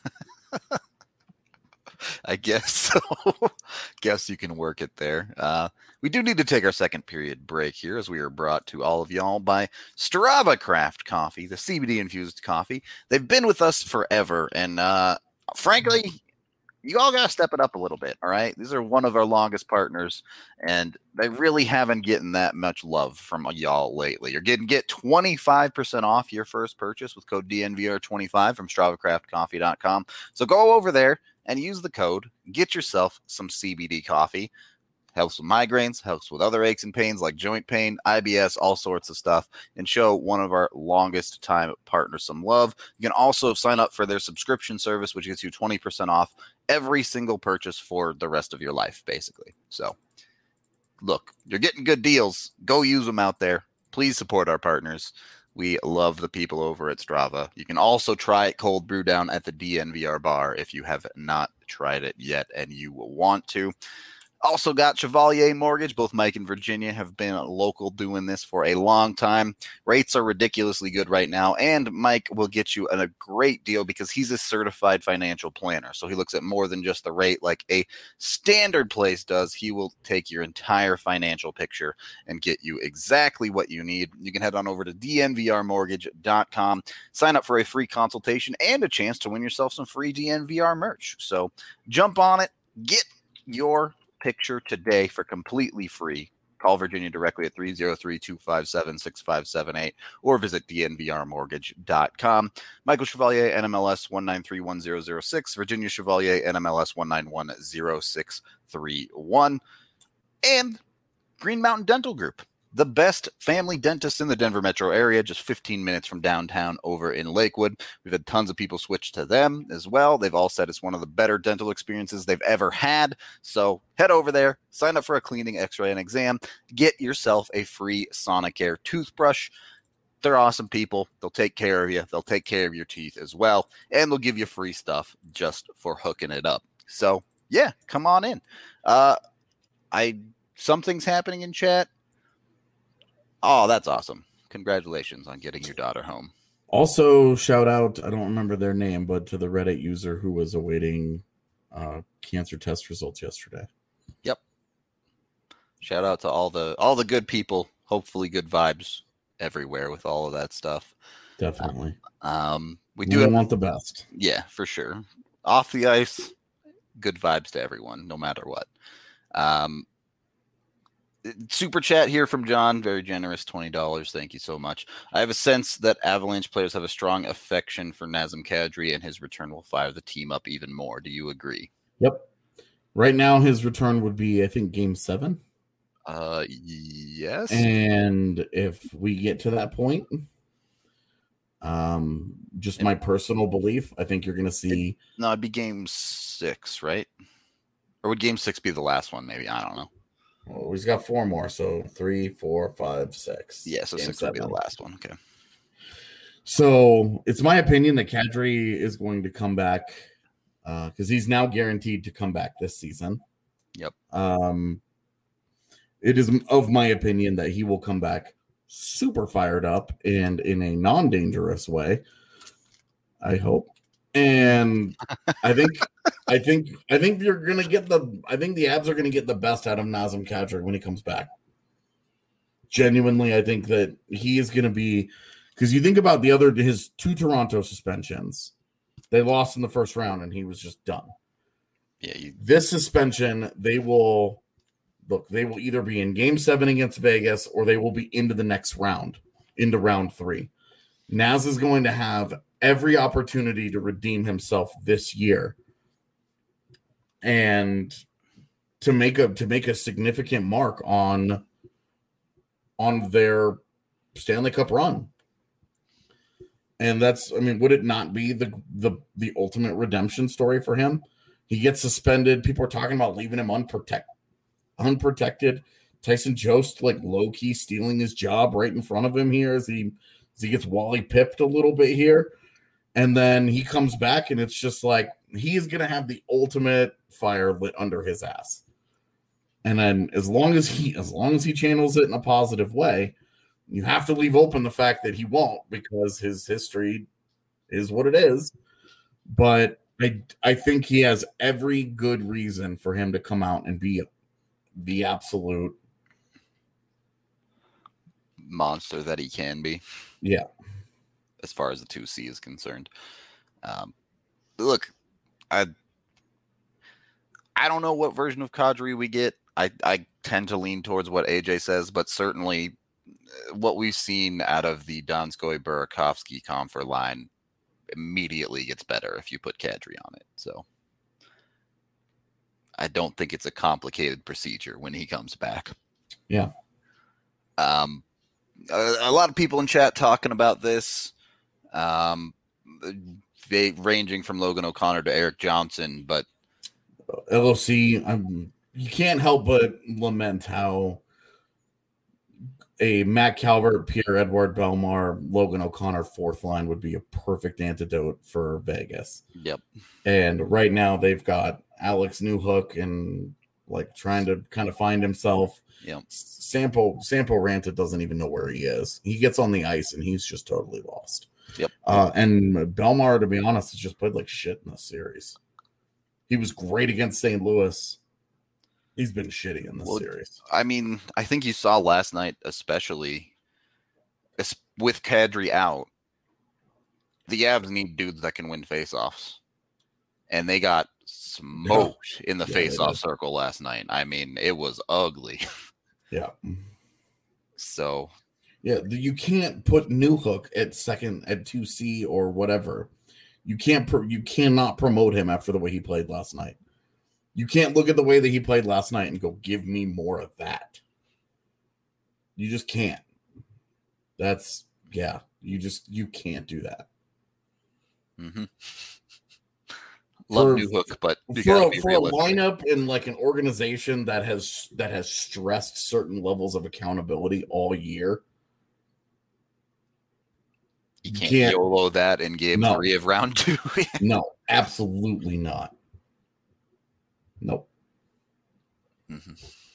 Speaker 1: I guess so. Guess you can work it there. We do need to take our second period break here, as we are brought to all of y'all by Strava Craft Coffee, the CBD infused coffee. They've been with us forever, and frankly, you all got to step it up a little bit. All right, these are one of our longest partners, and they really haven't gotten that much love from y'all lately. You're get 25% off your first purchase with code DNVR25 from StravaCraftCoffee.com. So go over there and use the code. Get yourself some CBD coffee. Helps with migraines, helps with other aches and pains like joint pain, IBS, all sorts of stuff, and show one of our longest time partners some love. You can also sign up for their subscription service, which gets you 20% off every single purchase for the rest of your life, basically. So, look, you're getting good deals. Go use them out there. Please support our partners. We love the people over at Strava. You can also try it cold brew down at the DNVR bar if you have not tried it yet and you will want to. Also got Chevalier Mortgage. Both Mike and Virginia have been local doing this for a long time. Rates are ridiculously good right now, and Mike will get you a great deal because he's a certified financial planner. So he looks at more than just the rate like a standard place does. He will take your entire financial picture and get you exactly what you need. You can head on over to dnvrmortgage.com, sign up for a free consultation and a chance to win yourself some free DNVR merch. So jump on it, get your picture today for completely free. Call Virginia directly at 303-257-6578 or visit dnvrmortgage.com. Michael Chevalier, NMLS 1931006, Virginia Chevalier, NMLS 1910631, and Green Mountain Dental Group, the best family dentist in the Denver metro area, just 15 minutes from downtown over in Lakewood. We've had tons of people switch to them as well. They've all said it's one of the better dental experiences they've ever had. So head over there, sign up for a cleaning, x-ray, and exam. Get yourself a free Sonicare toothbrush. They're awesome people. They'll take care of you. They'll take care of your teeth as well. And they'll give you free stuff just for hooking it up. So, yeah, come on in. Something's happening in chat. Oh, that's awesome. Congratulations on getting your daughter home.
Speaker 2: Also, shout out, I don't remember their name, but to the Reddit user who was awaiting cancer test results yesterday.
Speaker 1: Yep. Shout out to all the good people. Hopefully good vibes everywhere with all of that stuff.
Speaker 2: Definitely.
Speaker 1: We
Speaker 2: want the best.
Speaker 1: Yeah, for sure. Off the ice, good vibes to everyone, no matter what. Super chat here from John, very generous, $20. Thank you so much. I have a sense that Avalanche players have a strong affection for Nazem Kadri, and his return will fire the team up even more. Do you agree?
Speaker 2: Yep. Right now, his return would be, I think, Game 7.
Speaker 1: Yes.
Speaker 2: And if we get to that point, just my personal belief, I think you're going to see.
Speaker 1: No, it'd be Game 6, right? Or would Game 6 be the last one? Maybe, I don't know.
Speaker 2: Well, he's got 4 more, so 3, 4, 5, 6.
Speaker 1: Yeah, so
Speaker 2: Game
Speaker 1: 6
Speaker 2: 7
Speaker 1: would be the last one. Okay.
Speaker 2: So it's my opinion that Kadri is going to come back because he's now guaranteed to come back this season.
Speaker 1: Yep.
Speaker 2: It is of my opinion that he will come back super fired up and in a non-dangerous way. I hope. And I think you're gonna get the Avs are gonna get the best out of Nazem Kadri when he comes back. Genuinely, I think that he is gonna be, because you think about his 2 Toronto suspensions, they lost in the first round and he was just done.
Speaker 1: Yeah.
Speaker 2: This suspension, they will either be in Game 7 against Vegas or they will be into the next round, into round 3. Naz is going to have every opportunity to redeem himself this year and to make a significant mark on their Stanley Cup run. And that's, I mean, would it not be the ultimate redemption story for him? He gets suspended. People are talking about leaving him unprotected. Tyson Jost, like, low-key stealing his job right in front of him here as he gets Wally pipped a little bit here. And then he comes back, and it's just like he is going to have the ultimate fire lit under his ass. And then as long as he channels it in a positive way, you have to leave open the fact that he won't, because his history is what it is. But I think he has every good reason for him to come out and be the absolute
Speaker 1: monster that he can be.
Speaker 2: Yeah.
Speaker 1: As far as the 2C is concerned. Look, I don't know what version of Kadri we get. I tend to lean towards what AJ says, but certainly what we've seen out of the Donskoy Burakovsky Comfer line immediately gets better if you put Kadri on it. So I don't think it's a complicated procedure when he comes back.
Speaker 2: Yeah.
Speaker 1: A lot of people in chat talking about this, ranging from Logan O'Connor to Eric Johnson, but
Speaker 2: LOC, you can't help but lament how a Matt Calvert, Pierre-Edouard Bellemare, Logan O'Connor fourth line would be a perfect antidote for Vegas.
Speaker 1: Yep.
Speaker 2: And right now they've got Alex Newhook and like trying to kind of find himself.
Speaker 1: Yep.
Speaker 2: Sampo Ranta doesn't even know where he is. He gets on the ice and he's just totally lost.
Speaker 1: Yep.
Speaker 2: And Bellemare, to be honest, has just played like shit in this series. He was great against St. Louis. He's been shitty in this series.
Speaker 1: I mean, I think you saw last night, especially with Kadri out, the Avs need dudes that can win faceoffs. And they got smoked in the faceoff circle last night. I mean, it was ugly.
Speaker 2: Yeah.
Speaker 1: So.
Speaker 2: Yeah, you can't put Newhook at 2C or whatever. You cannot promote him after the way he played last night. You can't look at the way that he played last night and go, give me more of that. You just can't. You can't do that.
Speaker 1: Mm-hmm. Love Newhook, but
Speaker 2: for a lineup in like an organization that has stressed certain levels of accountability all year,
Speaker 1: you can't YOLO that in game 3 of round 2.
Speaker 2: No, absolutely not. Nope.
Speaker 1: Mm-hmm.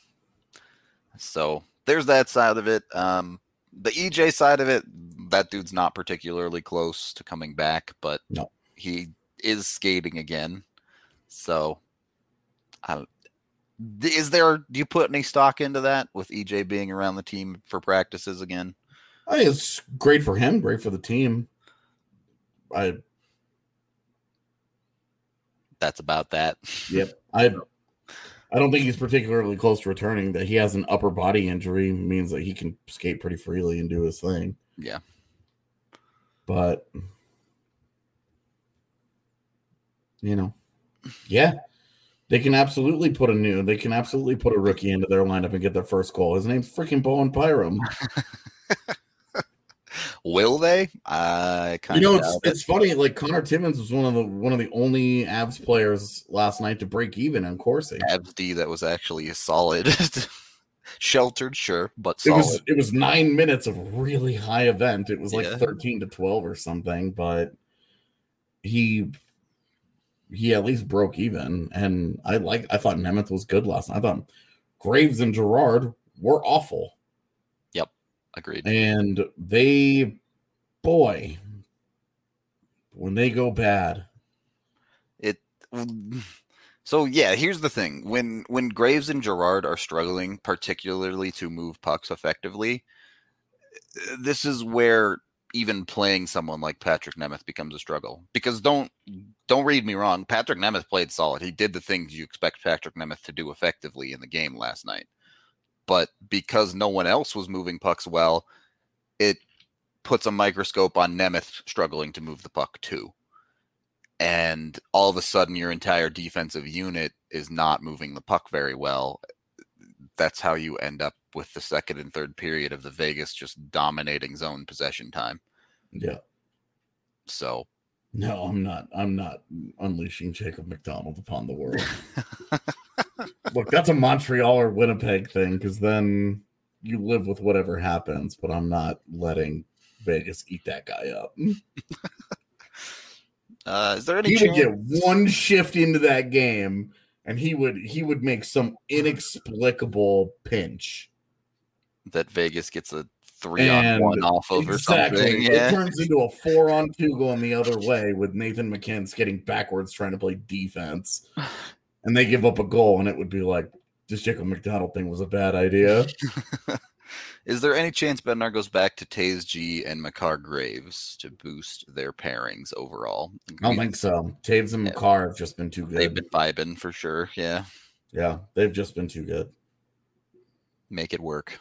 Speaker 1: So there's that side of it. The EJ side of it, that dude's not particularly close to coming back, but
Speaker 2: no,
Speaker 1: he is skating again. So do you put any stock into that with EJ being around the team for practices again?
Speaker 2: I think it's great for him, great for the team. That's
Speaker 1: about that.
Speaker 2: Yep. I I don't think he's particularly close to returning. That he has an upper body injury means that he can skate pretty freely and do his thing.
Speaker 1: Yeah.
Speaker 2: But, you know, yeah, they can absolutely put a rookie into their lineup and get their first goal. His name's freaking Bowen Byram.
Speaker 1: Will they?
Speaker 2: It's funny. Like Connor Timmins was one of the only Avs players last night to break even in Corsi.
Speaker 1: Avs D that was actually solid, sheltered, sure, but solid.
Speaker 2: It was 9 minutes of really high event. It was like 13-12 or something, but he at least broke even. And I thought Nemeth was good last night. I thought Graves and Gerard were awful.
Speaker 1: Yep, agreed.
Speaker 2: And when they go bad,
Speaker 1: So yeah, here's the thing: when Graves and Gerard are struggling, particularly to move pucks effectively, this is where even playing someone like Patrick Nemeth becomes a struggle. Because don't read me wrong, Patrick Nemeth played solid. He did the things you expect Patrick Nemeth to do effectively in the game last night. But because no one else was moving pucks well, it puts a microscope on Nemeth struggling to move the puck too. And all of a sudden your entire defensive unit is not moving the puck very well. That's how you end up with the second and third period of the Vegas just dominating zone possession time.
Speaker 2: Yeah.
Speaker 1: So
Speaker 2: no, I'm not unleashing Jacob McDonald upon the world. Look, that's a Montreal or Winnipeg thing, because then you live with whatever happens, but I'm not letting Vegas eat that guy up.
Speaker 1: Is there any
Speaker 2: chance? Would get one shift into that game and he would make some inexplicable pinch
Speaker 1: that Vegas gets a 3-on-1 off of or something.
Speaker 2: Yeah. It turns into a 4-on-2 going the other way with Nathan McKinn skating backwards trying to play defense. And they give up a goal, and it would be like, this Jacob McDonald thing was a bad idea.
Speaker 1: Is there any chance Bednar goes back to Taze G and Makar Graves to boost their pairings overall?
Speaker 2: I don't think so. Taves and Makar have just been too good.
Speaker 1: They've been vibing for sure, yeah.
Speaker 2: Yeah, they've just been too good.
Speaker 1: Make it work.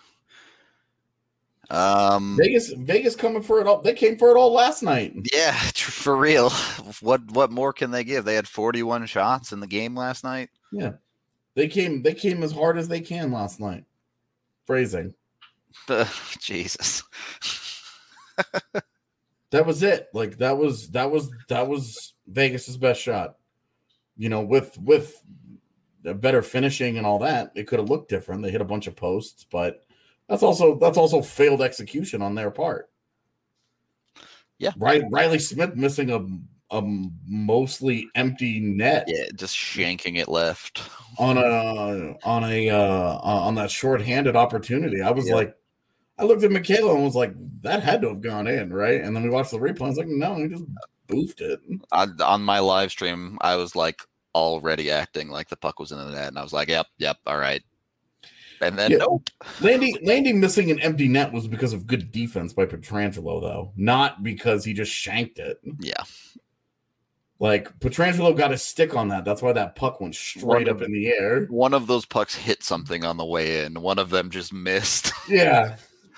Speaker 2: Vegas coming for it all. They came for it all last night.
Speaker 1: Yeah, for real. What more can they give? They had 41 shots in the game last night.
Speaker 2: Yeah, they came as hard as they can last night. Phrasing.
Speaker 1: Jesus.
Speaker 2: That was it. Like that was Vegas's best shot. You know, with a better finishing and all that, it could have looked different. They hit a bunch of posts, but that's also failed execution on their part.
Speaker 1: Yeah.
Speaker 2: Riley Smith missing a mostly empty net.
Speaker 1: Yeah, just shanking it left
Speaker 2: on that shorthanded opportunity. I was like, I looked at Michaela and was like, that had to have gone in, right? And then we watched the replay. I was like, no, he just boofed it.
Speaker 1: On my live stream, I was like already acting like the puck was in the net, and I was like, yep, all right. And then nope.
Speaker 2: Landy missing an empty net was because of good defense by Pietrangelo, though, not because he just shanked it.
Speaker 1: Yeah.
Speaker 2: Like, Pietrangelo got a stick on that. That's why that puck went straight up in the air.
Speaker 1: One of those pucks hit something on the way in. One of them just missed.
Speaker 2: Yeah.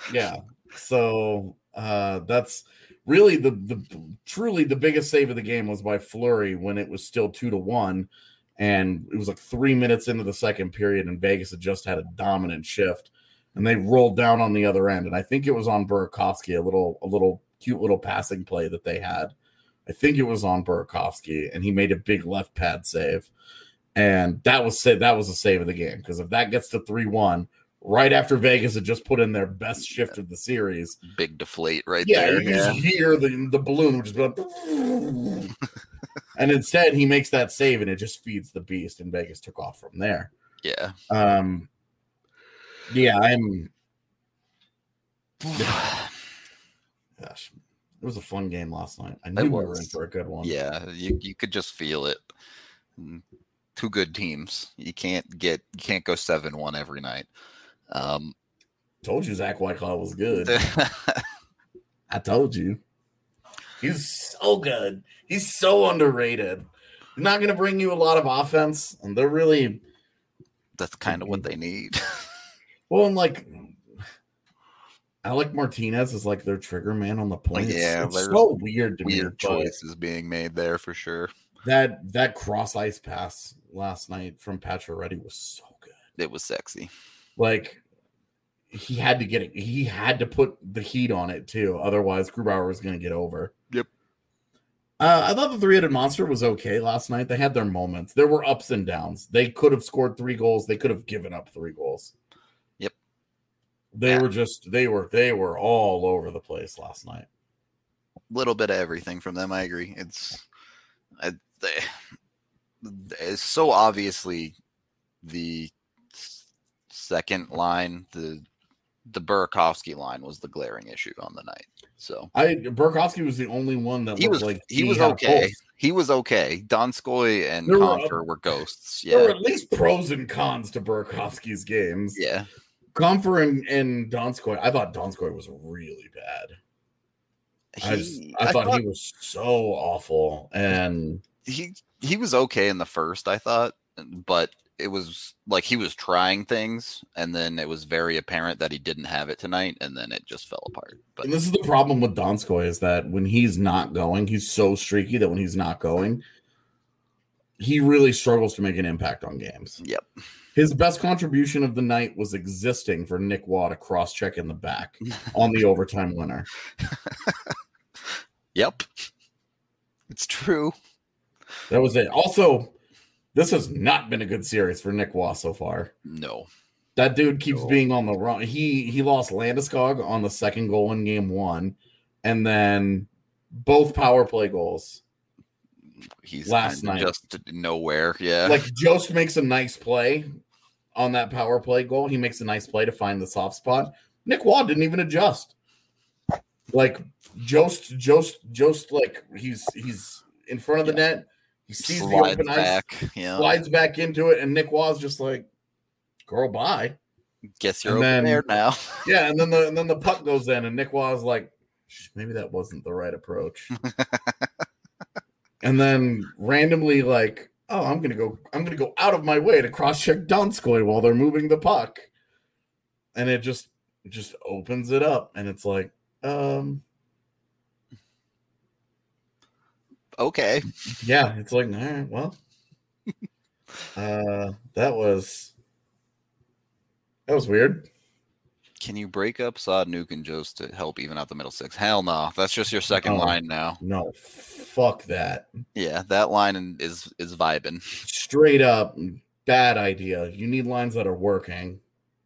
Speaker 2: So that's really truly the biggest save of the game was by Fleury when it was still 2-1. And it was like 3 minutes into the second period, and Vegas had just had a dominant shift. And they rolled down on the other end. And I think it was on Burakovsky, a little cute little passing play that they had. I think it was on Burakovsky, and he made a big left pad save. And that was a save of the game, because if that gets to 3-1, right after Vegas had just put in their best shift of the series.
Speaker 1: Big deflate there.
Speaker 2: You just hear the balloon, which is going and instead he makes that save, and it just feeds the beast, and Vegas took off from there.
Speaker 1: Yeah.
Speaker 2: Gosh. It was a fun game last night. I knew we were in for a good one.
Speaker 1: Yeah, you could just feel it. Two good teams. You can't go 7-1 every night.
Speaker 2: Told you Zach Whitecloud was good. I told you. He's so good. He's so underrated. He's not going to bring you a lot of offense, and they're really
Speaker 1: That's kind of what they need.
Speaker 2: Well, and like Alec Martinez is like their trigger man on the point.
Speaker 1: Yeah,
Speaker 2: it's
Speaker 1: there's
Speaker 2: so weird to me.
Speaker 1: Weird choices being made there for sure.
Speaker 2: That cross ice pass last night from Pacioretty was so good.
Speaker 1: It was sexy.
Speaker 2: Like he had to get it. He had to put the heat on it too. Otherwise, Grubauer was going to get over.
Speaker 1: Yep.
Speaker 2: I thought the three-headed monster was okay last night. They had their moments. There were ups and downs. They could have scored 3 goals. They could have given up 3 goals.
Speaker 1: Yep.
Speaker 2: They were all over the place last night.
Speaker 1: Little bit of everything from them. I agree. It's so obviously the second line, the Burakovsky line was the glaring issue on the night. So
Speaker 2: Burakovsky was the only one that
Speaker 1: he was okay. He was okay. Donskoy and Compher were ghosts. Yeah,
Speaker 2: there were at least pros and cons to Burakovsky's games.
Speaker 1: Yeah,
Speaker 2: Compher and Donskoy. I thought Donskoy was really bad. I thought he was so awful, and
Speaker 1: he was okay in the first. I thought, but it was like he was trying things, and then it was very apparent that he didn't have it tonight, and then it just fell apart.
Speaker 2: And this is the problem with Donskoy is that when he's not going, he's so streaky that when he's not going, he really struggles to make an impact on games.
Speaker 1: Yep.
Speaker 2: His best contribution of the night was existing for Nick Waugh to cross-check in the back on the overtime winner.
Speaker 1: Yep. It's true.
Speaker 2: That was it. Also, this has not been a good series for Nick Waugh so far.
Speaker 1: No.
Speaker 2: That dude keeps being on the run. He lost Landeskog on the second goal in game 1, and then both power play goals.
Speaker 1: He's
Speaker 2: last night
Speaker 1: just nowhere. Yeah.
Speaker 2: Like Jost makes a nice play on that power play goal. He makes a nice play to find the soft spot. Nick Waugh didn't even adjust. Like Jost like he's in front of the net. He sees the open ice, slides back into it, and Nick Waugh's just like, "Girl, bye."
Speaker 1: Guess you're over there now.
Speaker 2: Yeah, and then the puck goes in, and Nick Waugh's like, "Maybe that wasn't the right approach." And then randomly, like, "Oh, I'm gonna go out of my way to cross-check Donskoy while they're moving the puck," and it just opens it up, and it's like,
Speaker 1: okay.
Speaker 2: Yeah, it's like, all right, well, that was weird.
Speaker 1: Can you break up Saad, Nuke, and Jost to help even out the middle six? Hell no. That's just your second line now.
Speaker 2: No, fuck that.
Speaker 1: Yeah, that line is vibing.
Speaker 2: Straight up, bad idea. You need lines that are working.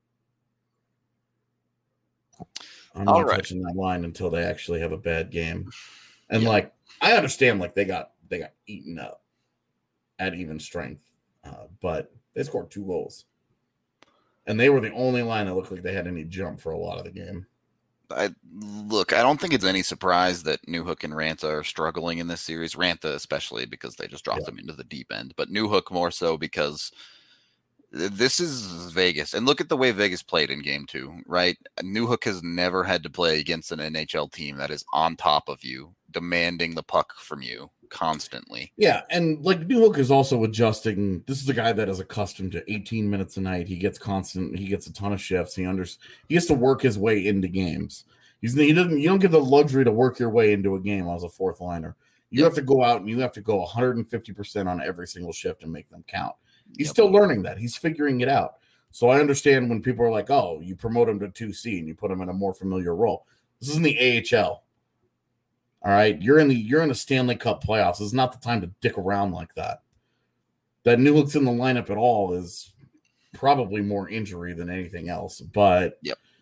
Speaker 2: I'm not touching that line until they actually have a bad game. And like, I understand, like they got eaten up at even strength, but they scored 2 goals, and they were the only line that looked like they had any jump for a lot of the game.
Speaker 1: I don't think it's any surprise that Newhook and Ranta are struggling in this series. Ranta especially because they just dropped them into the deep end, but Newhook more so because this is Vegas. And look at the way Vegas played in game 2, right? Newhook has never had to play against an NHL team that is on top of you, demanding the puck from you constantly.
Speaker 2: Yeah, and like Newhook is also adjusting. This is a guy that is accustomed to 18 minutes a night. He gets a ton of shifts. He has to work his way into games. You don't get the luxury to work your way into a game as a fourth liner. You have to go out and you have to go 150% on every single shift and make them count. He's still learning that. He's figuring it out. So I understand when people are like, "Oh, you promote him to 2C and you put him in a more familiar role." This isn't the AHL. All right, you're in the Stanley Cup playoffs. This is not the time to dick around like that. That Newhook's in the lineup at all is probably more injury than anything else. But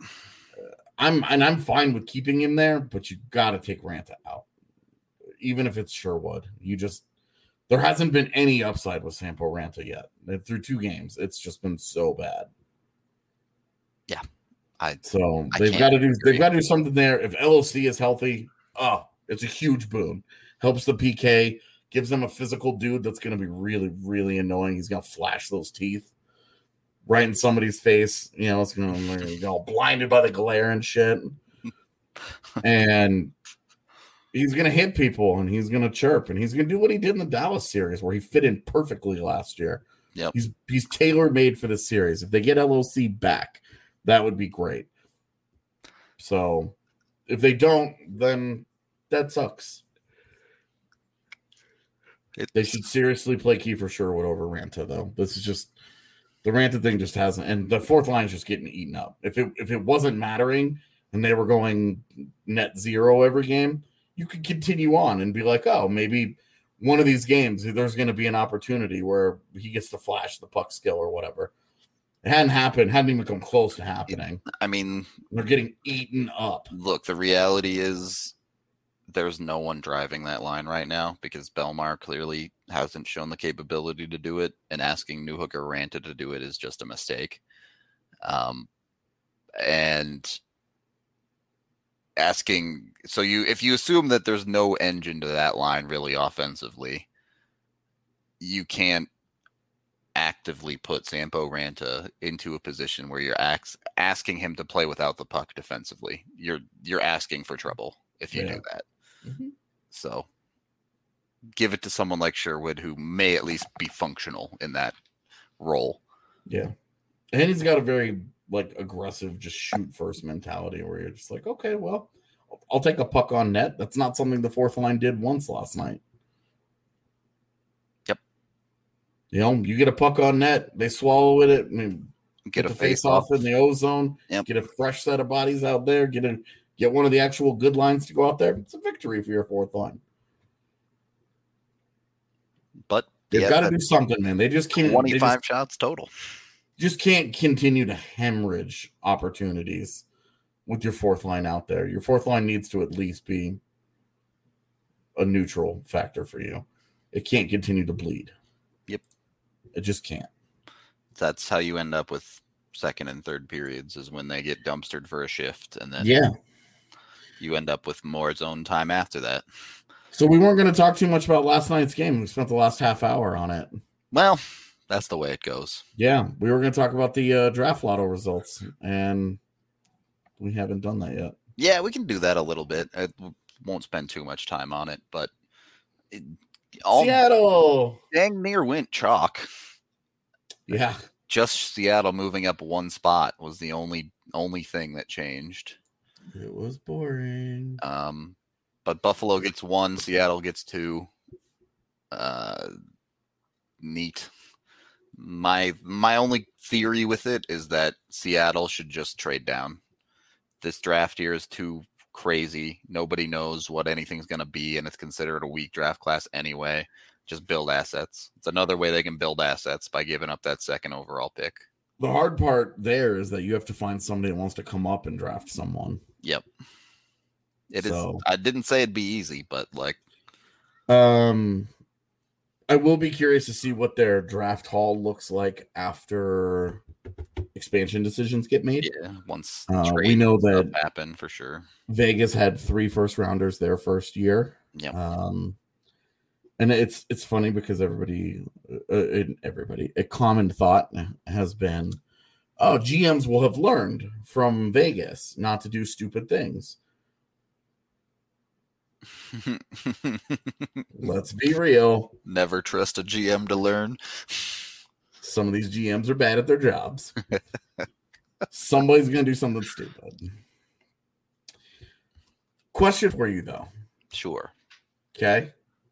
Speaker 2: I'm fine with keeping him there. But you got to take Ranta out, even if it's Sherwood. There hasn't been any upside with Sampo Ranta yet. Through 2 games, it's just been so bad.
Speaker 1: Yeah,
Speaker 2: they've got to do something there. If LOC is healthy, it's a huge boon. Helps the PK, gives them a physical dude that's going to be really, really annoying. He's going to flash those teeth right in somebody's face. You know, it's going to get all blinded by the glare and shit. And he's going to hit people, and he's going to chirp, and he's going to do what he did in the Dallas series where he fit in perfectly last year.
Speaker 1: Yep.
Speaker 2: He's tailor made for the series. If they get LOC back, that would be great. So if they don't, then that sucks. They should seriously play Kiefer Sherwood over Ranta, though. This is just the Ranta thing just hasn't, and the fourth line is just getting eaten up. If it wasn't mattering and they were going net zero every game, you could continue on and be like, oh, maybe one of these games there's going to be an opportunity where he gets to flash the puck skill or whatever. It hadn't happened, hadn't even come close to happening.
Speaker 1: I mean,
Speaker 2: they're getting eaten up.
Speaker 1: Look, the reality is there's no one driving that line right now because Belmar clearly hasn't shown the capability to do it, and asking Newhook or Ranta to do it is just a mistake. And asking, so if you assume that there's no engine to that line really offensively, you can't actively put Sampo Ranta into a position where you're asking him to play without the puck defensively. You're asking for trouble if you do that. Mm-hmm. So give it to someone like Sherwood who may at least be functional in that role.
Speaker 2: Yeah. And he's got a very aggressive, just shoot first mentality where you're just like, okay, well, I'll take a puck on net. That's not something the fourth line did once last night.
Speaker 1: Yep.
Speaker 2: You get a puck on net, they swallow it. I mean,
Speaker 1: get a
Speaker 2: face off in the ozone.
Speaker 1: Yep.
Speaker 2: Get a fresh set of bodies out there. Get one of the actual good lines to go out there. It's a victory for your fourth line.
Speaker 1: But
Speaker 2: they've got to do something, man. They just can't.
Speaker 1: 25 shots total.
Speaker 2: Just can't continue to hemorrhage opportunities with your fourth line out there. Your fourth line needs to at least be a neutral factor for you. It can't continue to bleed.
Speaker 1: Yep.
Speaker 2: It just can't.
Speaker 1: That's how you end up with second and third periods, is when they get dumpstered for a shift, and then you end up with more zone time after that.
Speaker 2: So we weren't going to talk too much about last night's game. We spent the last half hour on it.
Speaker 1: Well, that's the way it goes.
Speaker 2: Yeah, we were going to talk about the draft lotto results, and we haven't done that yet.
Speaker 1: Yeah, we can do that a little bit. I won't spend too much time on it, but
Speaker 2: Seattle
Speaker 1: dang near went chalk.
Speaker 2: Yeah.
Speaker 1: Just Seattle moving up one spot was the only thing that changed.
Speaker 2: It was boring.
Speaker 1: But Buffalo gets 1, Seattle gets 2. Neat. My only theory with it is that Seattle should just trade down. This draft year is too crazy. Nobody knows what anything's going to be, and it's considered a weak draft class anyway. Just build assets. It's another way they can build assets by giving up that second overall pick.
Speaker 2: The hard part there is that you have to find somebody that wants to come up and draft someone.
Speaker 1: Yep. It is. I didn't say it'd be easy, but
Speaker 2: I will be curious to see what their draft haul looks like after expansion decisions get made.
Speaker 1: Yeah, once
Speaker 2: we know that
Speaker 1: happen for sure.
Speaker 2: Vegas had 3 first rounders their first year.
Speaker 1: Yep.
Speaker 2: And it's funny because everybody, a common thought has been, oh, GMs will have learned from Vegas not to do stupid things. Let's be real.
Speaker 1: Never trust a GM to learn.
Speaker 2: Some of these GMs are bad at their jobs. Somebody's going to do something stupid. Question for you, though.
Speaker 1: Sure.
Speaker 2: Okay.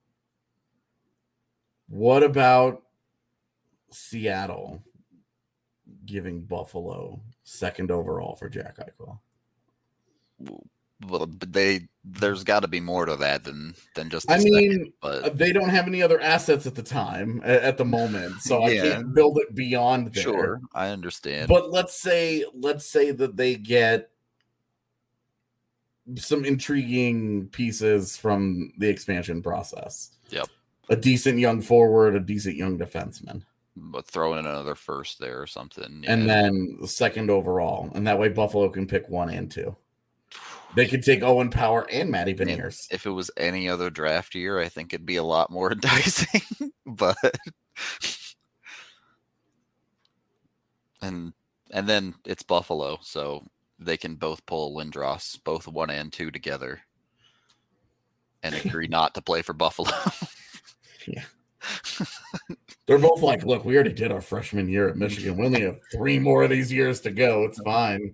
Speaker 2: What about Seattle giving Buffalo second overall for Jack Eichel?
Speaker 1: Well, but there's got to be more to that than just.
Speaker 2: But they don't have any other assets at the time, at the moment, so I can't build it beyond there.
Speaker 1: Sure, I understand.
Speaker 2: But let's say that they get some intriguing pieces from the expansion process.
Speaker 1: Yep.
Speaker 2: A decent young forward, a decent young defenseman.
Speaker 1: But throw in another first there or something.
Speaker 2: Yeah. And then the second overall. And that way Buffalo can pick 1 and 2. They could take Owen Power and Matty Beniers.
Speaker 1: If it was any other draft year, I think it'd be a lot more enticing. But and then it's Buffalo, so they can both pull Lindros, both 1 and 2 together, and agree not to play for Buffalo.
Speaker 2: Yeah. They're both like, look, we already did our freshman year at Michigan. We only have 3 more of these years to go. It's fine.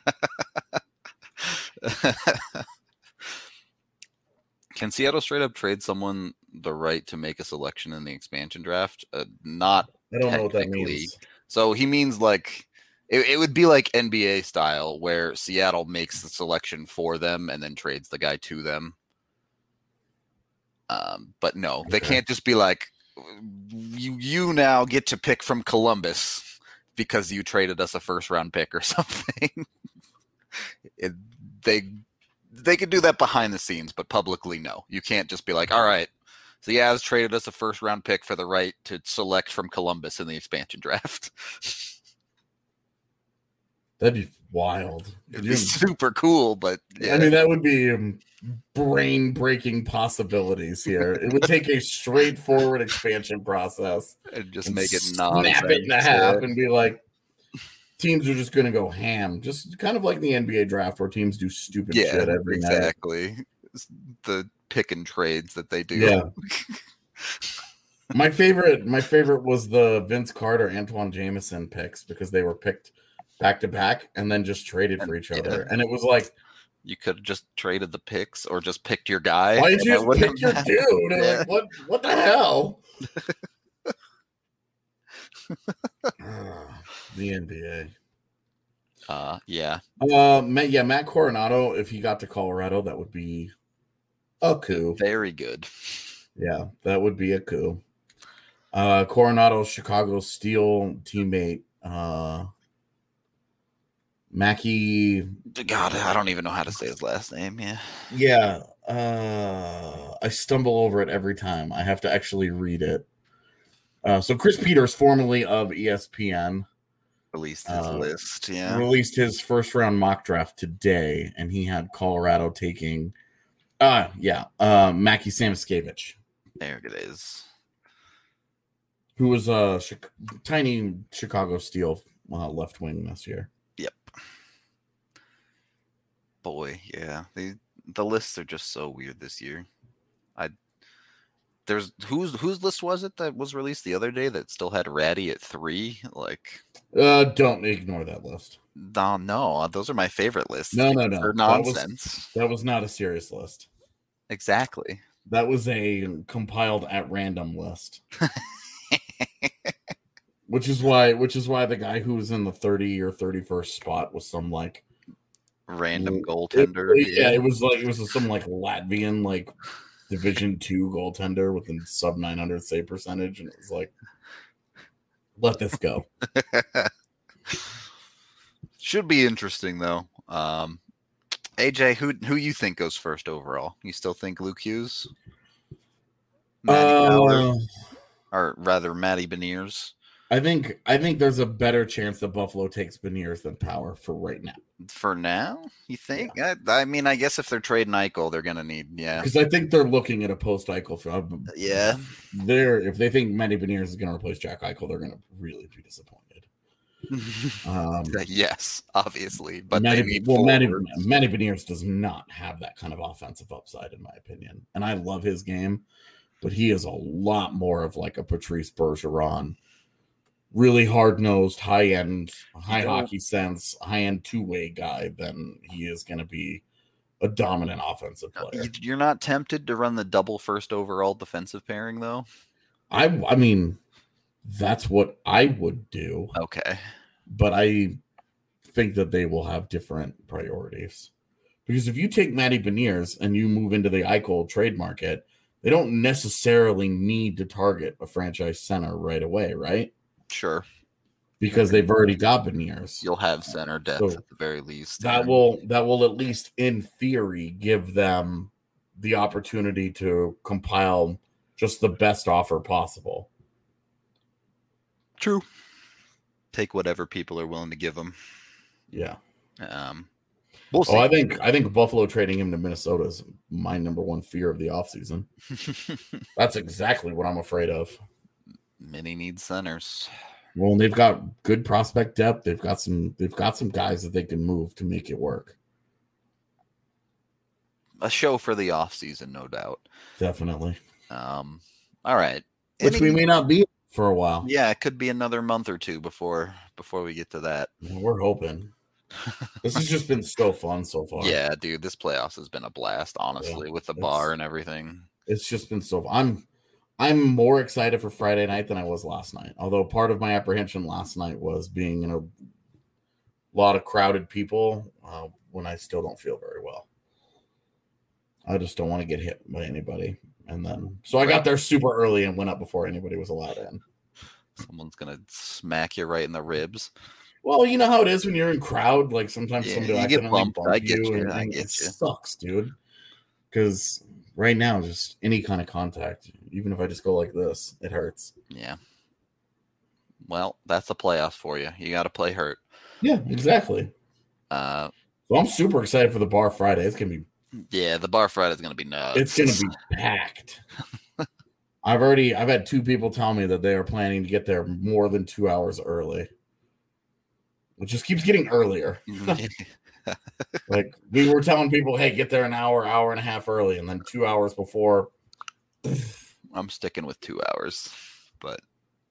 Speaker 1: Can Seattle straight up trade someone the right to make a selection in the expansion draft? Not
Speaker 2: I don't know what that
Speaker 1: technically.
Speaker 2: means.
Speaker 1: So he means like it would be like NBA style where Seattle makes the selection for them and then trades the guy to them. But no, they can't just be like, you now get to pick from Columbus because you traded us a first round pick or something. They could do that behind the scenes, but publicly, no. You can't just be like, all right, so the Avs traded us a first round pick for the right to select from Columbus in the expansion draft.
Speaker 2: That'd be wild.
Speaker 1: It'd be super cool, but yeah.
Speaker 2: I mean, that would be brain-breaking possibilities here. It would take a straightforward expansion process
Speaker 1: and just make it nonsense.
Speaker 2: Snap it in half and be like, teams are just going to go ham. Just kind of like the NBA draft where teams do stupid shit every night.
Speaker 1: Exactly. The pick and trades that they do.
Speaker 2: Yeah. My favorite was the Vince Carter, Antoine Jameson picks because they were picked back to back and then just traded for each other. And it was like,
Speaker 1: you could have just traded the picks or just picked your guy.
Speaker 2: Why did you just pick your dude?
Speaker 1: Yeah.
Speaker 2: Like, what the hell? The NBA.
Speaker 1: Yeah.
Speaker 2: Matt Coronado, if he got to Colorado, that would be a coup.
Speaker 1: Very good.
Speaker 2: Yeah, that would be a coup. Coronado's Chicago Steel teammate, Mackie.
Speaker 1: God, I don't even know how to say his last name. Yeah.
Speaker 2: Yeah. I stumble over it every time. I have to actually read it. So Chris Peters, formerly of ESPN,
Speaker 1: released his list. Yeah.
Speaker 2: Released his first round mock draft today, and he had Colorado taking Mackie Samoskevich.
Speaker 1: There it is.
Speaker 2: Who was a tiny Chicago Steel left wing this year.
Speaker 1: Yep. Boy, yeah. The lists are just so weird this year. There's whose list was it that was released the other day that still had Ratty at 3? Like,
Speaker 2: don't ignore that list.
Speaker 1: No, those are my favorite lists.
Speaker 2: No.
Speaker 1: For nonsense.
Speaker 2: That was not a serious list.
Speaker 1: Exactly.
Speaker 2: That was a compiled at random list. Which is why the guy who was in the 30 or 31st spot was some like
Speaker 1: random goaltender.
Speaker 2: It was some like Latvian like Division 2 goaltender with a sub 900 save percentage, and it was like, let this go.
Speaker 1: Should be interesting though. AJ, who you think goes first overall? You still think Luke Hughes? Or rather, Matty Beniers?
Speaker 2: I think there's a better chance that Buffalo takes Beniers than Power for right now.
Speaker 1: For now, you think? Yeah. I mean, I guess if they're trading Eichel, they're gonna need
Speaker 2: because I think they're looking at a post Eichel film.
Speaker 1: Yeah,
Speaker 2: if they think Matty Beniers is gonna replace Jack Eichel, they're gonna really be disappointed.
Speaker 1: Yes, obviously, but
Speaker 2: Matty Beniers does not have that kind of offensive upside, in my opinion, and I love his game, but he is a lot more of like a Patrice Bergeron. Really hard-nosed, high-end, hockey sense, high-end two-way guy than he is going to be a dominant offensive player.
Speaker 1: You're not tempted to run the double first overall defensive pairing, though?
Speaker 2: I mean, that's what I would do.
Speaker 1: Okay.
Speaker 2: But I think that they will have different priorities. Because if you take Matty Beniers and you move into the Eichel trade market, they don't necessarily need to target a franchise center right away, right?
Speaker 1: Sure.
Speaker 2: Because they've already got Beniers.
Speaker 1: You'll have center depth at the very least.
Speaker 2: That will at least in theory give them the opportunity to compile just the best offer possible.
Speaker 1: True. Take whatever people are willing to give them.
Speaker 2: Yeah.
Speaker 1: We'll see.
Speaker 2: I think Buffalo trading him to Minnesota is my number one fear of the offseason. That's exactly what I'm afraid of.
Speaker 1: Many need centers.
Speaker 2: Well, they've got good prospect depth. They've got some guys that they can move to make it work.
Speaker 1: A show for the offseason, no doubt.
Speaker 2: Definitely.
Speaker 1: All right.
Speaker 2: Which we may not be for a while.
Speaker 1: Yeah, it could be another month or two before we get to that.
Speaker 2: We're hoping. This has just been so fun so far.
Speaker 1: Yeah, dude, this playoffs has been a blast, honestly, with the bar and everything.
Speaker 2: It's just been so fun. I'm more excited for Friday night than I was last night. Although part of my apprehension last night was being in a lot of crowded people when I still don't feel very well. I just don't want to get hit by anybody. And then, so I got there super early and went up before anybody was allowed in.
Speaker 1: Someone's going to smack you right in the ribs.
Speaker 2: Well, you know how it is when you're in crowd. Like sometimes somebody will
Speaker 1: get
Speaker 2: accidentally
Speaker 1: bumped. I get you.
Speaker 2: and it sucks, dude. Because right now, just any kind of contact, even if I just go like this, it hurts.
Speaker 1: Yeah. Well, that's the playoffs for you. You got to play hurt.
Speaker 2: Yeah, exactly. So I'm super excited for the bar Friday. It's gonna be.
Speaker 1: Yeah, the bar Friday is gonna be nuts.
Speaker 2: It's gonna be packed. I've had 2 people tell me that they are planning to get there more than 2 hours early. It just keeps getting earlier. Like we were telling people, hey, get there an hour and a half early, and then 2 hours before.
Speaker 1: I'm sticking with 2 hours, but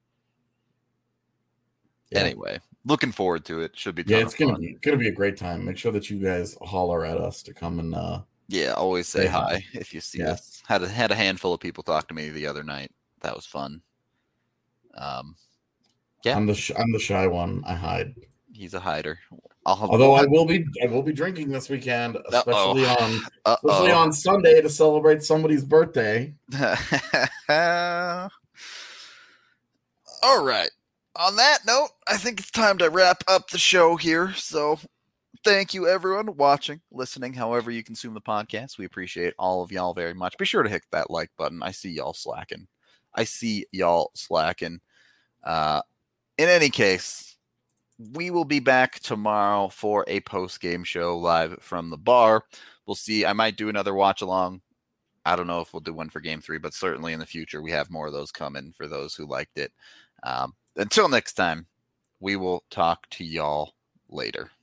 Speaker 1: anyway, looking forward to it. Should be
Speaker 2: it's gonna be a great time. Make sure that you guys holler at us to come and
Speaker 1: always say hi if you see us. Had a handful of people talk to me the other night. That was fun.
Speaker 2: I'm the shy one. I hide.
Speaker 1: He's a hider.
Speaker 2: Although I will be drinking this weekend, especially on Sunday to celebrate somebody's birthday.
Speaker 1: All right. On that note, I think it's time to wrap up the show here. So thank you, everyone, watching, listening, however you consume the podcast. We appreciate all of y'all very much. Be sure to hit that like button. I see y'all slacking. In any case, we will be back tomorrow for a post-game show live from the bar. We'll see. I might do another watch-along. I don't know if we'll do one for Game 3, but certainly in the future, we have more of those coming for those who liked it. Until next time, we will talk to y'all later.